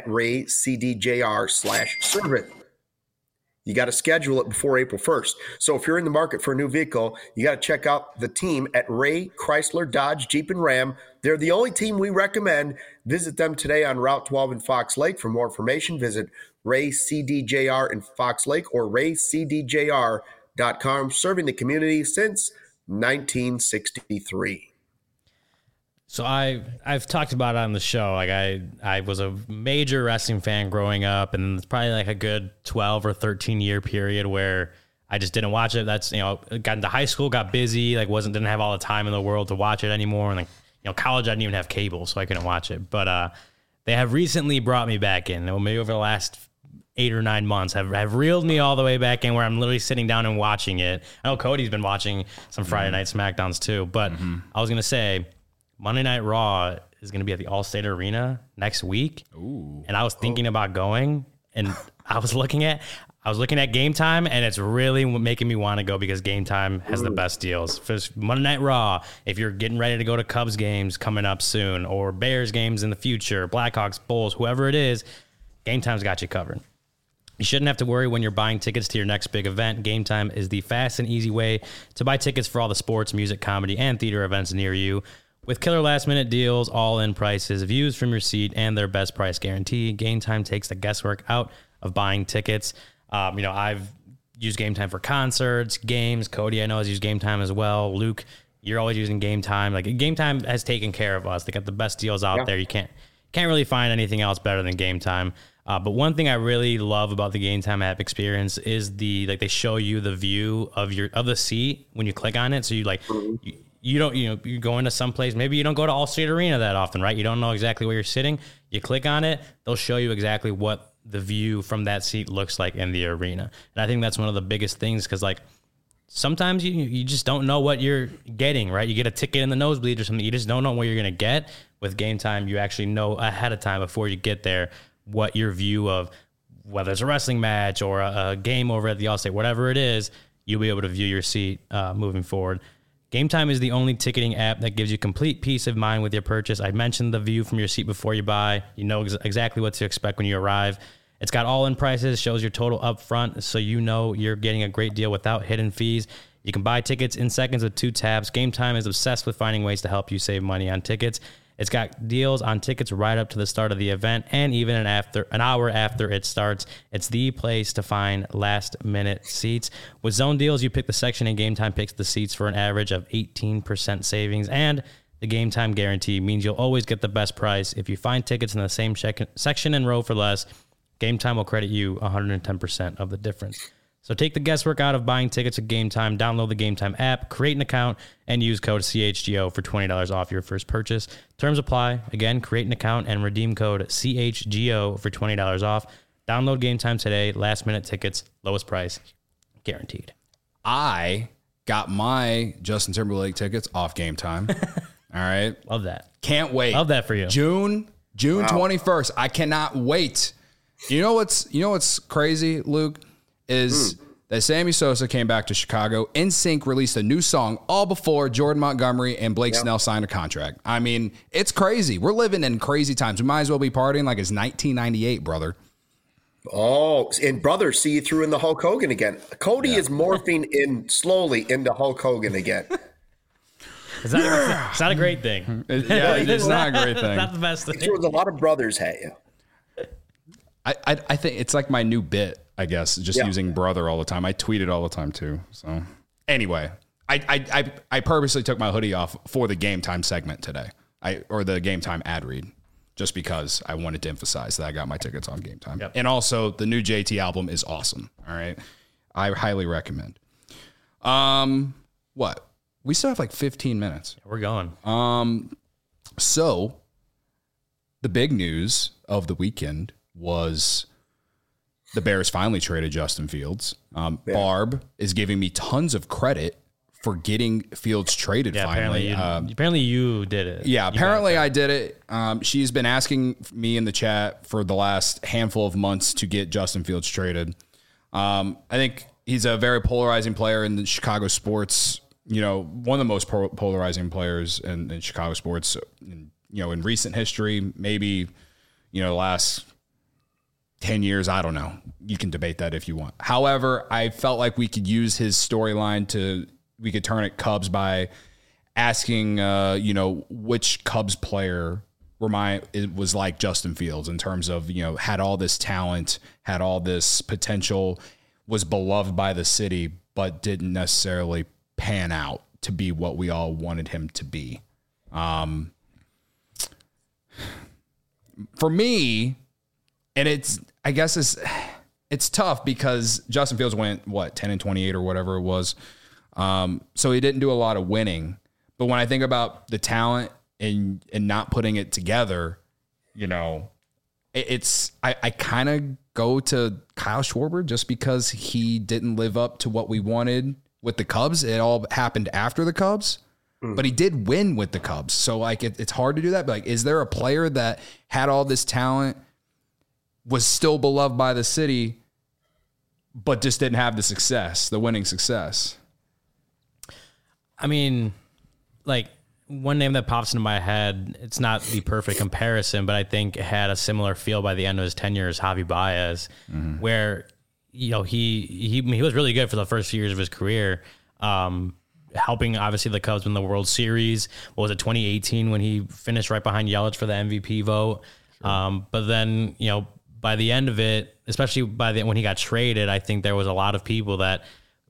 RayCDJR/service. You got to schedule it before April 1st. So if you're in the market for a new vehicle, you got to check out the team at Ray Chrysler, Dodge, Jeep, and Ram. They're the only team we recommend. Visit them today on Route 12 in Fox Lake. For more information, visit Ray CDJR in Fox Lake or raycdjr.com, serving the community since 1963. So I've talked about it on the show. Like I was a major wrestling fan growing up, and it's probably like a good 12 or 13 year period where I just didn't watch it. That's, got into high school, got busy, didn't have all the time in the world to watch it anymore. And college, I didn't even have cable, so I couldn't watch it. But they have recently brought me back in. Maybe over the last 8 or 9 months have reeled me all the way back in where I'm literally sitting down and watching it. I know Cody's been watching some Friday Night SmackDowns too, but I was going to say, Monday Night Raw is going to be at the Allstate Arena next week. Ooh. And I was thinking about going, and I was looking at Game Time, and it's really making me want to go because Game Time has the best deals. For Monday Night Raw, if you're getting ready to go to Cubs games coming up soon, or Bears games in the future, Blackhawks, Bulls, whoever it is, Game Time's got you covered. You shouldn't have to worry when you're buying tickets to your next big event. Game Time is the fast and easy way to buy tickets for all the sports, music, comedy, and theater events near you. With killer last-minute deals, all-in prices, views from your seat, and their best price guarantee, Game Time takes the guesswork out of buying tickets. I've used Game Time for concerts, games. Cody, I know, has used Game Time as well. Luke, you're always using Game Time. Game Time has taken care of us. They got the best deals out there. You can't really find anything else better than Game Time. But one thing I really love about the Game Time app experience is they show you the view of the seat when you click on it. So you don't, you go into some place, maybe you don't go to Allstate Arena that often, right? You don't know exactly where you're sitting. You click on it, they'll show you exactly what the view from that seat looks like in the arena. And I think that's one of the biggest things because sometimes you just don't know what you're getting, right? You get a ticket in the nosebleed or something. You just don't know what you're going to get. With Game Time, you actually know ahead of time before you get there what your view of whether it's a wrestling match or a game over at the Allstate, whatever it is, you'll be able to view your seat moving forward. Game Time is the only ticketing app that gives you complete peace of mind with your purchase. I mentioned the view from your seat before you buy. You know exactly what to expect when you arrive. It's got all-in prices, shows your total up front, so you know you're getting a great deal without hidden fees. You can buy tickets in seconds with 2 taps. Game Time is obsessed with finding ways to help you save money on tickets. It's got deals on tickets right up to the start of the event and even an hour after it starts. It's the place to find last-minute seats. With zone deals, you pick the section and Game Time picks the seats for an average of 18% savings. And the Game Time guarantee means you'll always get the best price. If you find tickets in the same section and row for less, Game Time will credit you 110% of the difference. So take the guesswork out of buying tickets at Game Time. Download the Game Time app, create an account, and use code CHGO for $20 off your first purchase. Terms apply. Again, create an account and redeem code CHGO for $20 off. Download Game Time today. Last-minute tickets, lowest price, guaranteed. I got my Justin Timberlake tickets off Game Time. All right. Love that. Can't wait. Love that for you. June 21st. I cannot wait. You know what's crazy, Luke? Is that Sammy Sosa came back to Chicago. NSYNC released a new song all before Jordan Montgomery and Blake Snell signed a contract. I mean, it's crazy. We're living in crazy times. We might as well be partying like it's 1998, brother. Oh, and brother, see you threw in the Hulk Hogan again. Cody is morphing in slowly into Hulk Hogan again. It's not a great thing. It's not a great thing. Not the best thing. He throws a lot of brothers at you. I think it's like my new bit, I guess, just using brother all the time. I tweet it all the time too. So anyway, I purposely took my hoodie off for the Game Time segment today, or the Game Time ad read, just because I wanted to emphasize that I got my tickets on Game Time. Yep. And also the new JT album is awesome. All right. I highly recommend. What? We still have like 15 minutes. We're going. So the big news of the weekend was the Bears finally traded Justin Fields. Barb is giving me tons of credit for getting Fields traded finally. Apparently you did it. Yeah, apparently I did it. She's been asking me in the chat for the last handful of months to get Justin Fields traded. I think he's a very polarizing player in the Chicago sports. You know, one of the most polarizing players in Chicago sports, in recent history, maybe, the last 10 years, I don't know. You can debate that if you want. However, I felt like we could use his storyline we could turn it Cubs by asking, which Cubs player it was like Justin Fields in terms of, had all this talent, had all this potential, was beloved by the city, but didn't necessarily pan out to be what we all wanted him to be. For me, and I guess it's tough because Justin Fields went 10-28 or whatever it was. So he didn't do a lot of winning. But when I think about the talent and not putting it together, I kind of go to Kyle Schwarber just because he didn't live up to what we wanted with the Cubs. It all happened after the Cubs. But he did win with the Cubs. So it's hard to do that. But is there a player that had all this talent, was still beloved by the city, but just didn't have the winning success? I mean, one name that pops into my head, it's not the perfect comparison, but I think it had a similar feel by the end of his tenure as Javi Baez, where, he was really good for the first few years of his career, helping obviously the Cubs win the World Series. What was it, 2018, when he finished right behind Yelich for the MVP vote? Sure. But then, by the end of it, especially when he got traded, I think there was a lot of people that,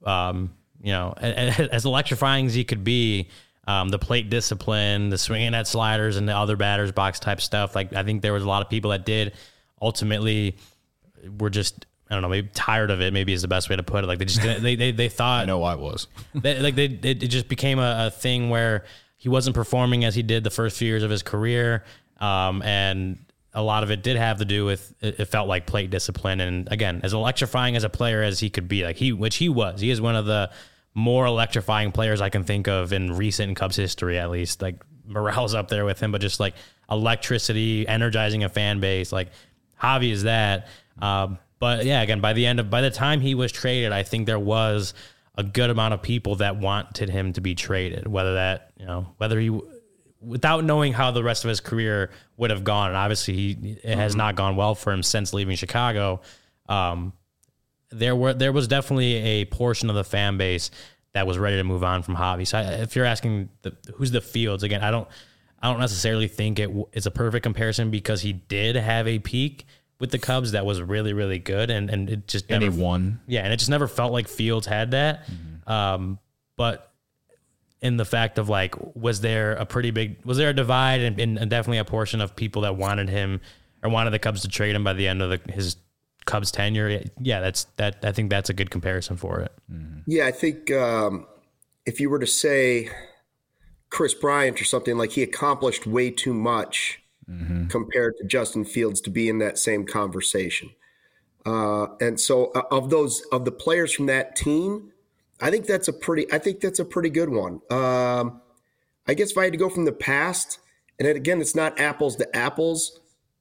as electrifying as he could be, the plate discipline, the swinging at sliders and the other batter's box type stuff. I think there was a lot of people that did ultimately were just, I don't know, maybe tired of it, maybe is the best way to put it. They just didn't, they thought, I know I was, it just became a thing where he wasn't performing as he did the first few years of his career. And a lot of it did have to do with, it felt like plate discipline. And again, as electrifying as a player as he could be, which he was, he is one of the more electrifying players I can think of in recent Cubs history, at least. Like Morale's up there with him, but just like electricity, energizing a fan base. Like Javi is that. But yeah, again, by the time he was traded, I think there was a good amount of people that wanted him to be traded, whether he, without knowing how the rest of his career would have gone. And obviously it has not gone well for him since leaving Chicago. There was definitely a portion of the fan base that was ready to move on from Javi. So if you're asking who's the Fields, again, I don't necessarily think it's a perfect comparison because he did have a peak with the Cubs that was really, really good. And it just never won. Yeah. And it just never felt like Fields had that. But in the fact of like, was there a divide and definitely a portion of people that wanted him or wanted the Cubs to trade him by the end of his Cubs tenure? Yeah, I think that's a good comparison for it. Yeah, I think if you were to say Chris Bryant or something, like he accomplished way too much compared to Justin Fields to be in that same conversation. And so of the players from that team, I think that's a pretty good one. I guess if I had to go from the past, and again, it's not apples to apples.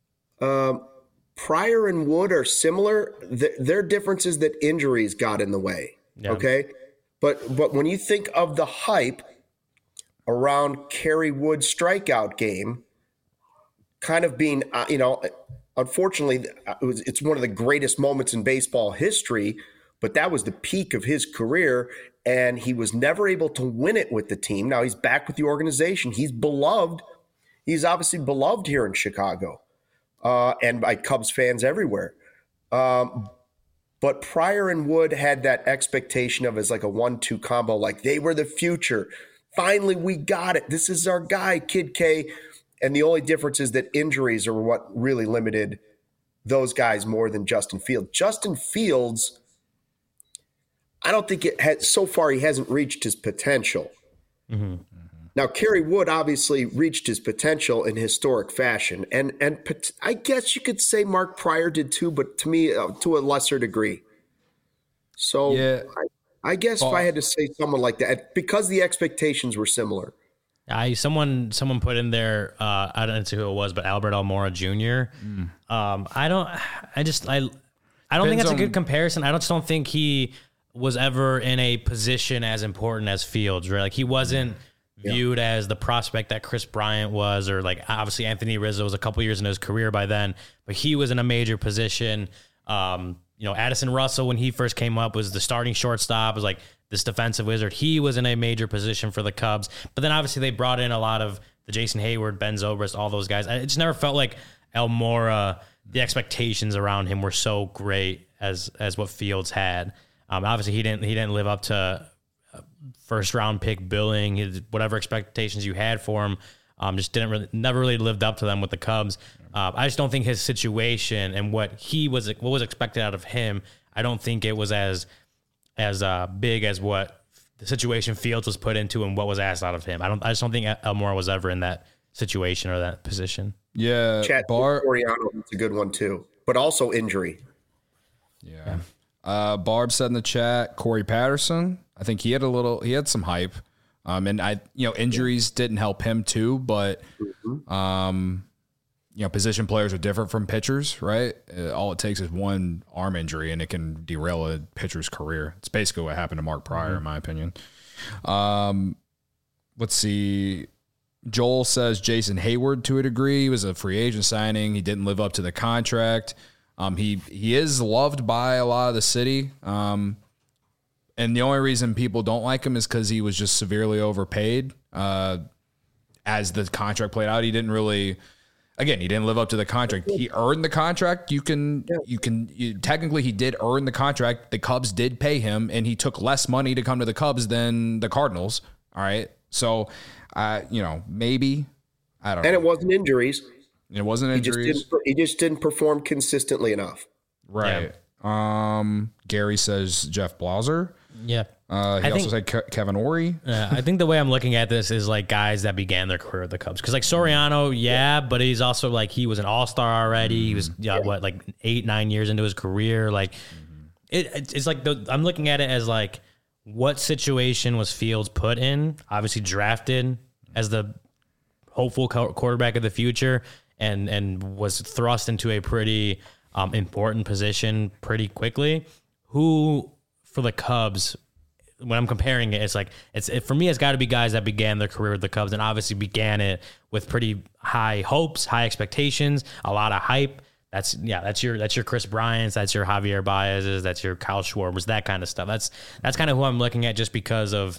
Pryor and Wood are similar. Their difference is that injuries got in the way. Yeah. Okay. But when you think of the hype around Kerry Wood's strikeout game, kind of being, unfortunately, it's one of the greatest moments in baseball history, but that was the peak of his career, and he was never able to win it with the team. Now he's back with the organization. He's beloved. He's obviously beloved here in Chicago and by Cubs fans everywhere. But Pryor and Wood had that expectation of as like a 1-2 combo, like they were the future. Finally, we got it. This is our guy, Kid K. And the only difference is that injuries are what really limited those guys more than Justin Fields. Justin Fields, I don't think so far he hasn't reached his potential. Now, Kerry Wood obviously reached his potential in historic fashion. And I guess you could say Mark Pryor did too, but to me, to a lesser degree. So yeah. I guess if I had to say someone like that, because the expectations were similar. Someone put in there, I don't know who it was, but Albert Almora Jr. I don't think that's a good comparison. I just don't think he was ever in a position as important as Fields, right? Like he wasn't viewed as the prospect that Chris Bryant was, or like obviously Anthony Rizzo was a couple years into his career by then, but he was in a major position. Addison Russell, when he first came up, was the starting shortstop, was like this defensive wizard. He was in a major position for the Cubs, but then obviously they brought in a lot of the Jason Hayward, Ben Zobrist, all those guys. It just never felt like Almora, the expectations around him were so great as what Fields had. Obviously he didn't live up to first round pick billing. Whatever expectations you had for him, never really lived up to them with the Cubs. I just don't think his situation and what was expected out of him, I don't think it was as big as what the situation Fields was put into and what was asked out of him. I just don't think Almora was ever in that situation or that position. Yeah, Soriano is a good one too, but also injury. Yeah. Barb said in the chat, Corey Patterson. I think he had some hype. And injuries didn't help him too, but position players are different from pitchers, right? All it takes is one arm injury and it can derail a pitcher's career. It's basically what happened to Mark Pryor, in my opinion. Let's see. Joel says Jason Hayward to a degree. He was a free agent signing. He didn't live up to the contract. He is loved by a lot of the city. And the only reason people don't like him is because he was just severely overpaid. As the contract played out, he didn't live up to the contract. He earned the contract. Technically he did earn the contract. The Cubs did pay him, and he took less money to come to the Cubs than the Cardinals. All right. So, maybe, I don't know. And it wasn't injuries. It wasn't injuries. He just didn't perform consistently enough. Right. Yeah. Gary says Jeff Blauser. Yeah. He also said Kevin Ory. I think the way I'm looking at this is like guys that began their career at the Cubs. Because like Soriano, but he's also like he was an all-star already. He was 8-9 years into his career. Like it's like I'm looking at it as like what situation was Fields put in? Obviously drafted as the hopeful quarterback of the future, and was thrust into a pretty important position pretty quickly. Who for the Cubs? When I'm comparing it, it's like for me, it's got to be guys that began their career with the Cubs and obviously began it with pretty high hopes, high expectations, a lot of hype. That's your Chris Bryant's, that's your Javier Baez's, that's your Kyle Schwarbers, that kind of stuff. That's kind of who I'm looking at, just because of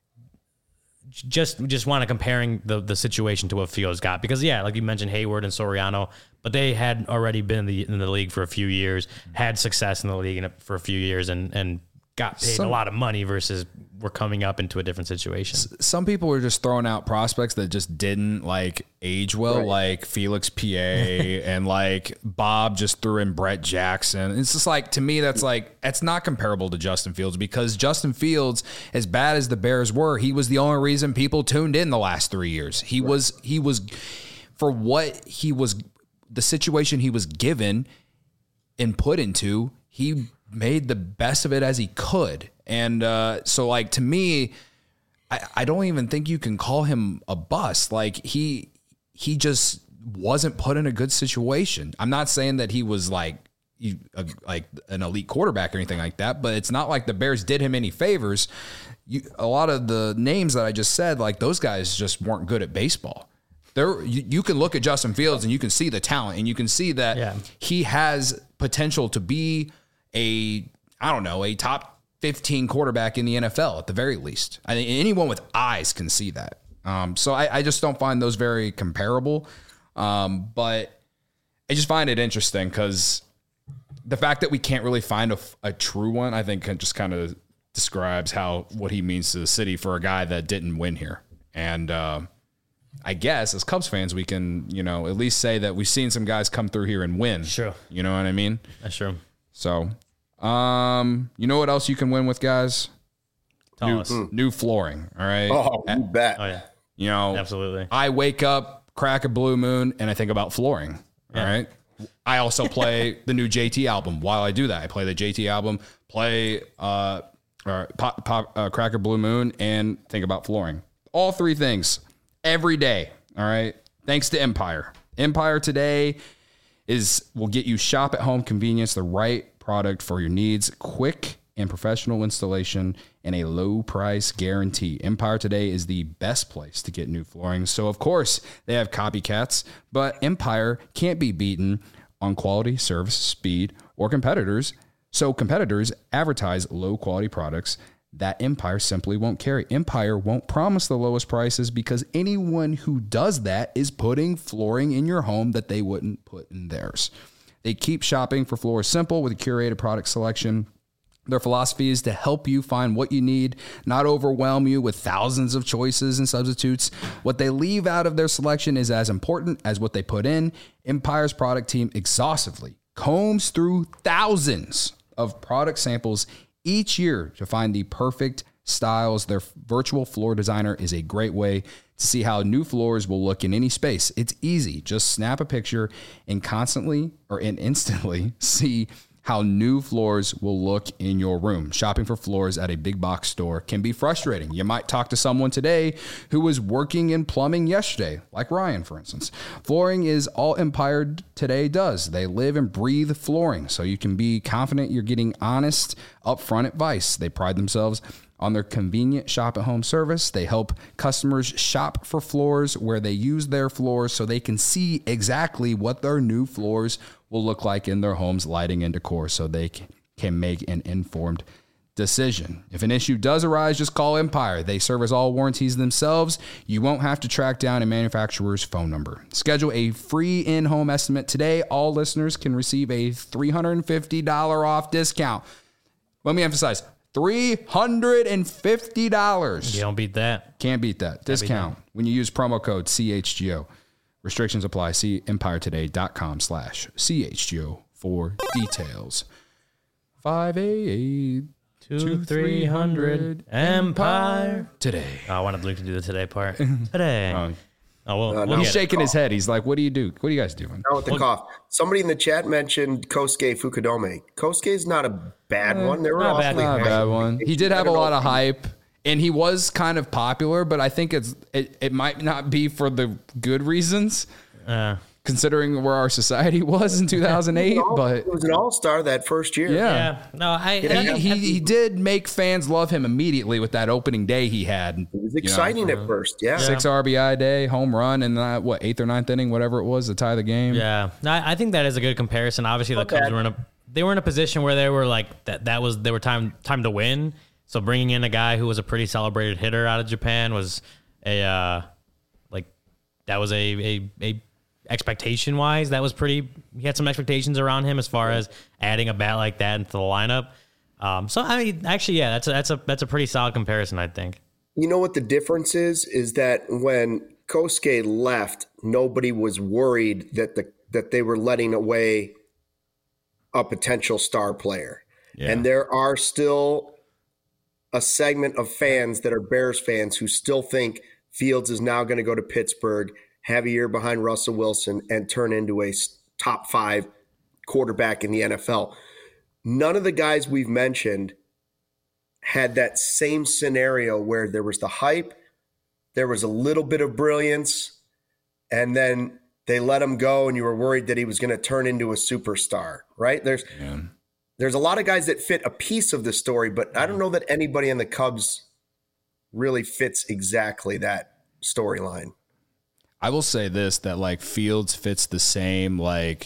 just want to comparing the situation to what Fields got, because like you mentioned, Hayward and Soriano, but they had already been in the league for a few years, had success in the league for a few years, and got paid a lot of money versus we're coming up into a different situation. Some people were just throwing out prospects that just didn't age well, like Felix PA and Bob just threw in Brett Jackson. It's just to me, that's not comparable to Justin Fields, because Justin Fields, as bad as the Bears were, he was the only reason people tuned in the last 3 years. He was for what he was, the situation he was given and put into, he made the best of it as he could. And so to me, I don't even think you can call him a bust. He just wasn't put in a good situation. I'm not saying that he was like an elite quarterback or anything like that, but it's not like the Bears did him any favors. A lot of the names that I just said, those guys just weren't good at baseball. You can look at Justin Fields and you can see the talent, and you can see that he has potential to be a top 15 quarterback in the NFL at the very least. I think anyone with eyes can see that. So I just don't find those very comparable. But I just find it interesting because the fact that we can't really find a true one, I think just kind of describes what he means to the city for a guy that didn't win here. And I guess as Cubs fans, we can, at least say that we've seen some guys come through here and win. Sure. You know what I mean? That's true. So, you know what else you can win with, guys? Tell us. New flooring. All right. Oh, you bet. Oh yeah. Absolutely. I wake up, crack a blue moon, and I think about flooring. Yeah. All right. I also play the new JT album. While I do that, I play the JT album, play crack a blue moon, and think about flooring. All three things every day. All right. Thanks to Empire. Empire today will get you shop at home convenience, the right product for your needs, quick and professional installation, and a low price guarantee. Empire today is the best place to get new flooring. So of course they have copycats, but Empire can't be beaten on quality, service, speed, or competitors. So competitors advertise low quality products that Empire simply won't carry. Empire won't promise the lowest prices because anyone who does that is putting flooring in your home that they wouldn't put in theirs. They keep shopping for floors simple with a curated product selection. Their philosophy is to help you find what you need, not overwhelm you with thousands of choices and substitutes. What they leave out of their selection is as important as what they put in. Empire's product team exhaustively combs through thousands of product samples each year to find the perfect styles. Their virtual floor designer is a great way to see how new floors will look in any space. It's easy. Just snap a picture and instantly see how new floors will look in your room. Shopping for floors at a big box store can be frustrating. You might talk to someone today who was working in plumbing yesterday, like Ryan, for instance. Flooring is all Empire today does. They live and breathe flooring, so you can be confident you're getting honest, upfront advice. They pride themselves on their convenient shop-at-home service. They help customers shop for floors where they use their floors so they can see exactly what their new floors will look like in their homes, lighting and decor, so they can make an informed decision. If an issue does arise, just call Empire. They service all warranties themselves. You won't have to track down a manufacturer's phone number. Schedule a free in-home estimate today. All listeners can receive a $350 off discount. Let me emphasize, $350. You don't beat that. Can't beat that. Discount when you use promo code CHGO. Restrictions apply. See empiretoday.com/CHGO for details. 588-2300 Empire today. Oh, I wanted Luke to do the today part. Today. Oh, well, No. He's shaking his head. He's like, what do you do? What are you guys doing? Now with the cough. Somebody in the chat mentioned Kosuke Fukudome. Kosuke's not a bad one. They were not awfully bad. Not a bad one. He did have a lot of hype, and he was kind of popular, but I think it might not be for the good reasons, considering where our society was in 2008. But it was an all-star that first year. Yeah. No, he did make fans love him immediately with that opening day he had. It was exciting at first, yeah. 6 RBI day, home run, and 8th or 9th inning, whatever it was, to tie the game. Yeah. No, I think that is a good comparison. Obviously, the Cubs were in a position where they were like they were time to win. So bringing in a guy who was a pretty celebrated hitter out of Japan was a expectation wise, that was pretty. He had some expectations around him as far as adding a bat like that into the lineup. So I mean, actually, yeah, that's a pretty solid comparison, I think. You know what the difference is that when Kosuke left, nobody was worried that they were letting away a potential star player. Yeah. And there are still a segment of fans that are Bears fans who still think Fields is now going to go to Pittsburgh, have a year behind Russell Wilson, and turn into a top 5 quarterback in the NFL. None of the guys we've mentioned had that same scenario where there was the hype, there was a little bit of brilliance, and then they let him go and you were worried that he was going to turn into a superstar, right? There's a lot of guys that fit a piece of the story, but I don't know that anybody in the Cubs really fits exactly that storyline. I will say this, that like Fields fits the same,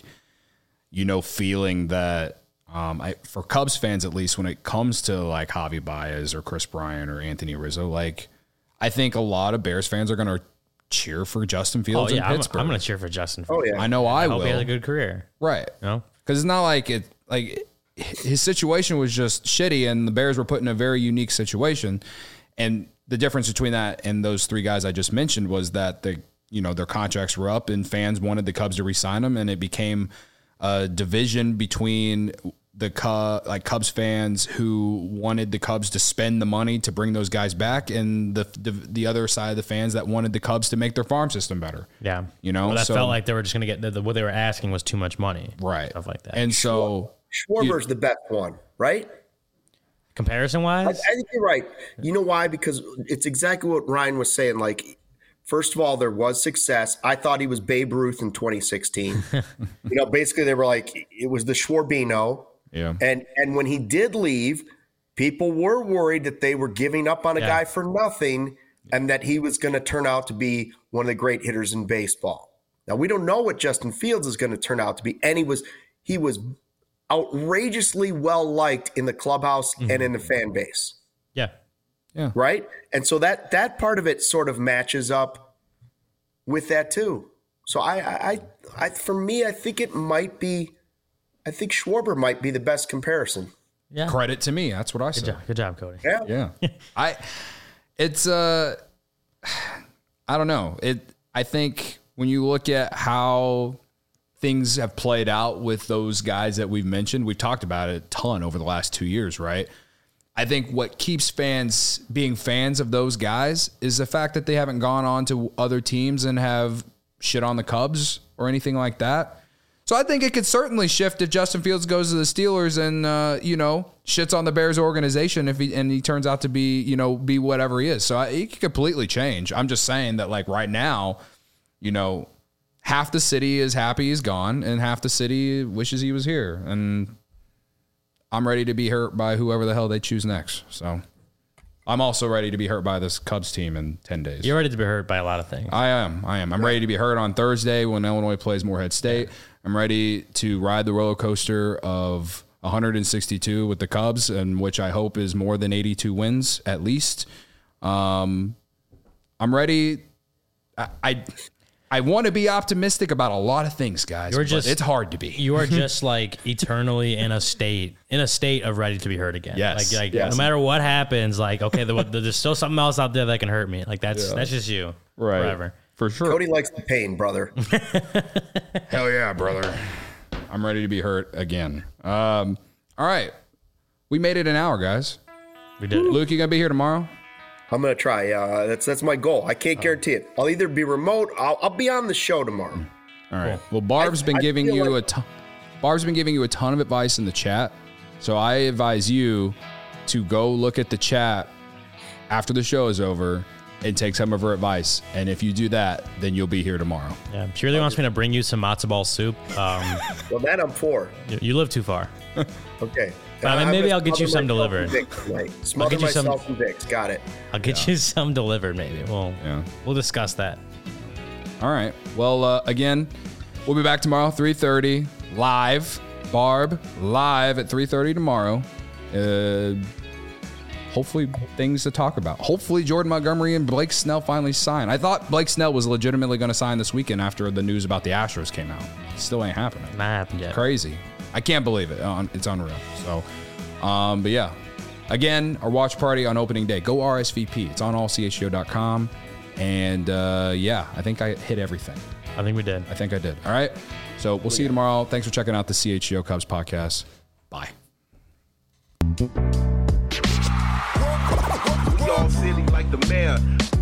feeling that for Cubs fans, at least when it comes to like Javi Baez or Chris Bryant or Anthony Rizzo, like I think a lot of Bears fans are going to cheer for Justin Fields in Pittsburgh. I'm going to cheer for Justin Fields. Oh yeah. I know I will. Hope he has a good career. Right. No? Because it's not like his situation was just shitty and the Bears were put in a very unique situation. And the difference between that and those 3 guys I just mentioned was that their contracts were up and fans wanted the Cubs to re-sign them, and it became a division between the Cubs fans who wanted the Cubs to spend the money to bring those guys back, and the other side of the fans that wanted the Cubs to make their farm system better. Yeah, felt like they were just going to get what they were asking was too much money, right? Stuff like that. And so Schwarber's the best one, right? Comparison wise, I think you're right. You know why? Because it's exactly what Ryan was saying. Like, first of all, there was success. I thought he was Babe Ruth in 2016. Basically they were like, it was the Schwarbino. Yeah. And when he did leave, people were worried that they were giving up on a guy for nothing and that he was going to turn out to be one of the great hitters in baseball. Now, we don't know what Justin Fields is going to turn out to be. And he was outrageously well-liked in the clubhouse and in the fan base. Yeah. Yeah. Right? And so that part of it sort of matches up with that too. So I for me, I think Schwarber might be the best comparison. Yeah. Credit to me. That's what I said. Good job, Cody. Yeah. I don't know. I think when you look at how things have played out with those guys that we've mentioned, we've talked about it a ton over the last 2 years, right? I think what keeps fans being fans of those guys is the fact that they haven't gone on to other teams and have shit on the Cubs or anything like that. So I think it could certainly shift if Justin Fields goes to the Steelers and, shits on the Bears organization if he turns out to be, be whatever he is. So it could completely change. I'm just saying that like right now, half the city is happy he's gone and half the city wishes he was here. And I'm ready to be hurt by whoever the hell they choose next. So I'm also ready to be hurt by this Cubs team in 10 days. You're ready to be hurt by a lot of things. I am. I'm ready to be hurt on Thursday when Illinois plays Morehead State. I'm ready to ride the roller coaster of 162 with the Cubs, and which I hope is more than 82 wins at least. I'm ready. I want to be optimistic about a lot of things, guys. It's hard to be. You are just like eternally in a state of ready to be hurt again. Yes. Like yes. No matter what happens, like, okay, there's still something else out there that can hurt me. Like that's just you. Right. Forever. For sure. Cody likes the pain, brother. Hell yeah, brother. I'm ready to be hurt again. All right. We made it an hour, guys. We did. Luke, you going to be here tomorrow? I'm going to try. That's my goal. I can't guarantee it. I'll either be remote. I'll be on the show tomorrow. All right. Well, Barb's been giving you a ton of advice in the chat. So I advise you to go look at the chat after the show is over and take some of her advice. And if you do that, then you'll be here tomorrow. Yeah. She really wants me to bring you some matzo ball soup. Well, that I'm for. You live too far. Okay. Maybe I'll get you some delivered. Smother myself in Vicks. Got it. I'll get you some delivered, maybe. We'll discuss that. All right. Well, again, we'll be back tomorrow, 3:30, live. Barb, live at 3:30 tomorrow. Hopefully things to talk about. Hopefully Jordan Montgomery and Blake Snell finally sign. I thought Blake Snell was legitimately going to sign this weekend after the news about the Astros came out. Still ain't happening. Not happened yet. Crazy. I can't believe it. It's unreal. So, but yeah. Again, our watch party on opening day. Go RSVP. It's on allchgo.com. And yeah, I think I hit everything. I think we did. I think I did. All right. So we'll see you tomorrow. Thanks for checking out the CHGO Cubs podcast. Bye. We all silly like the mayor.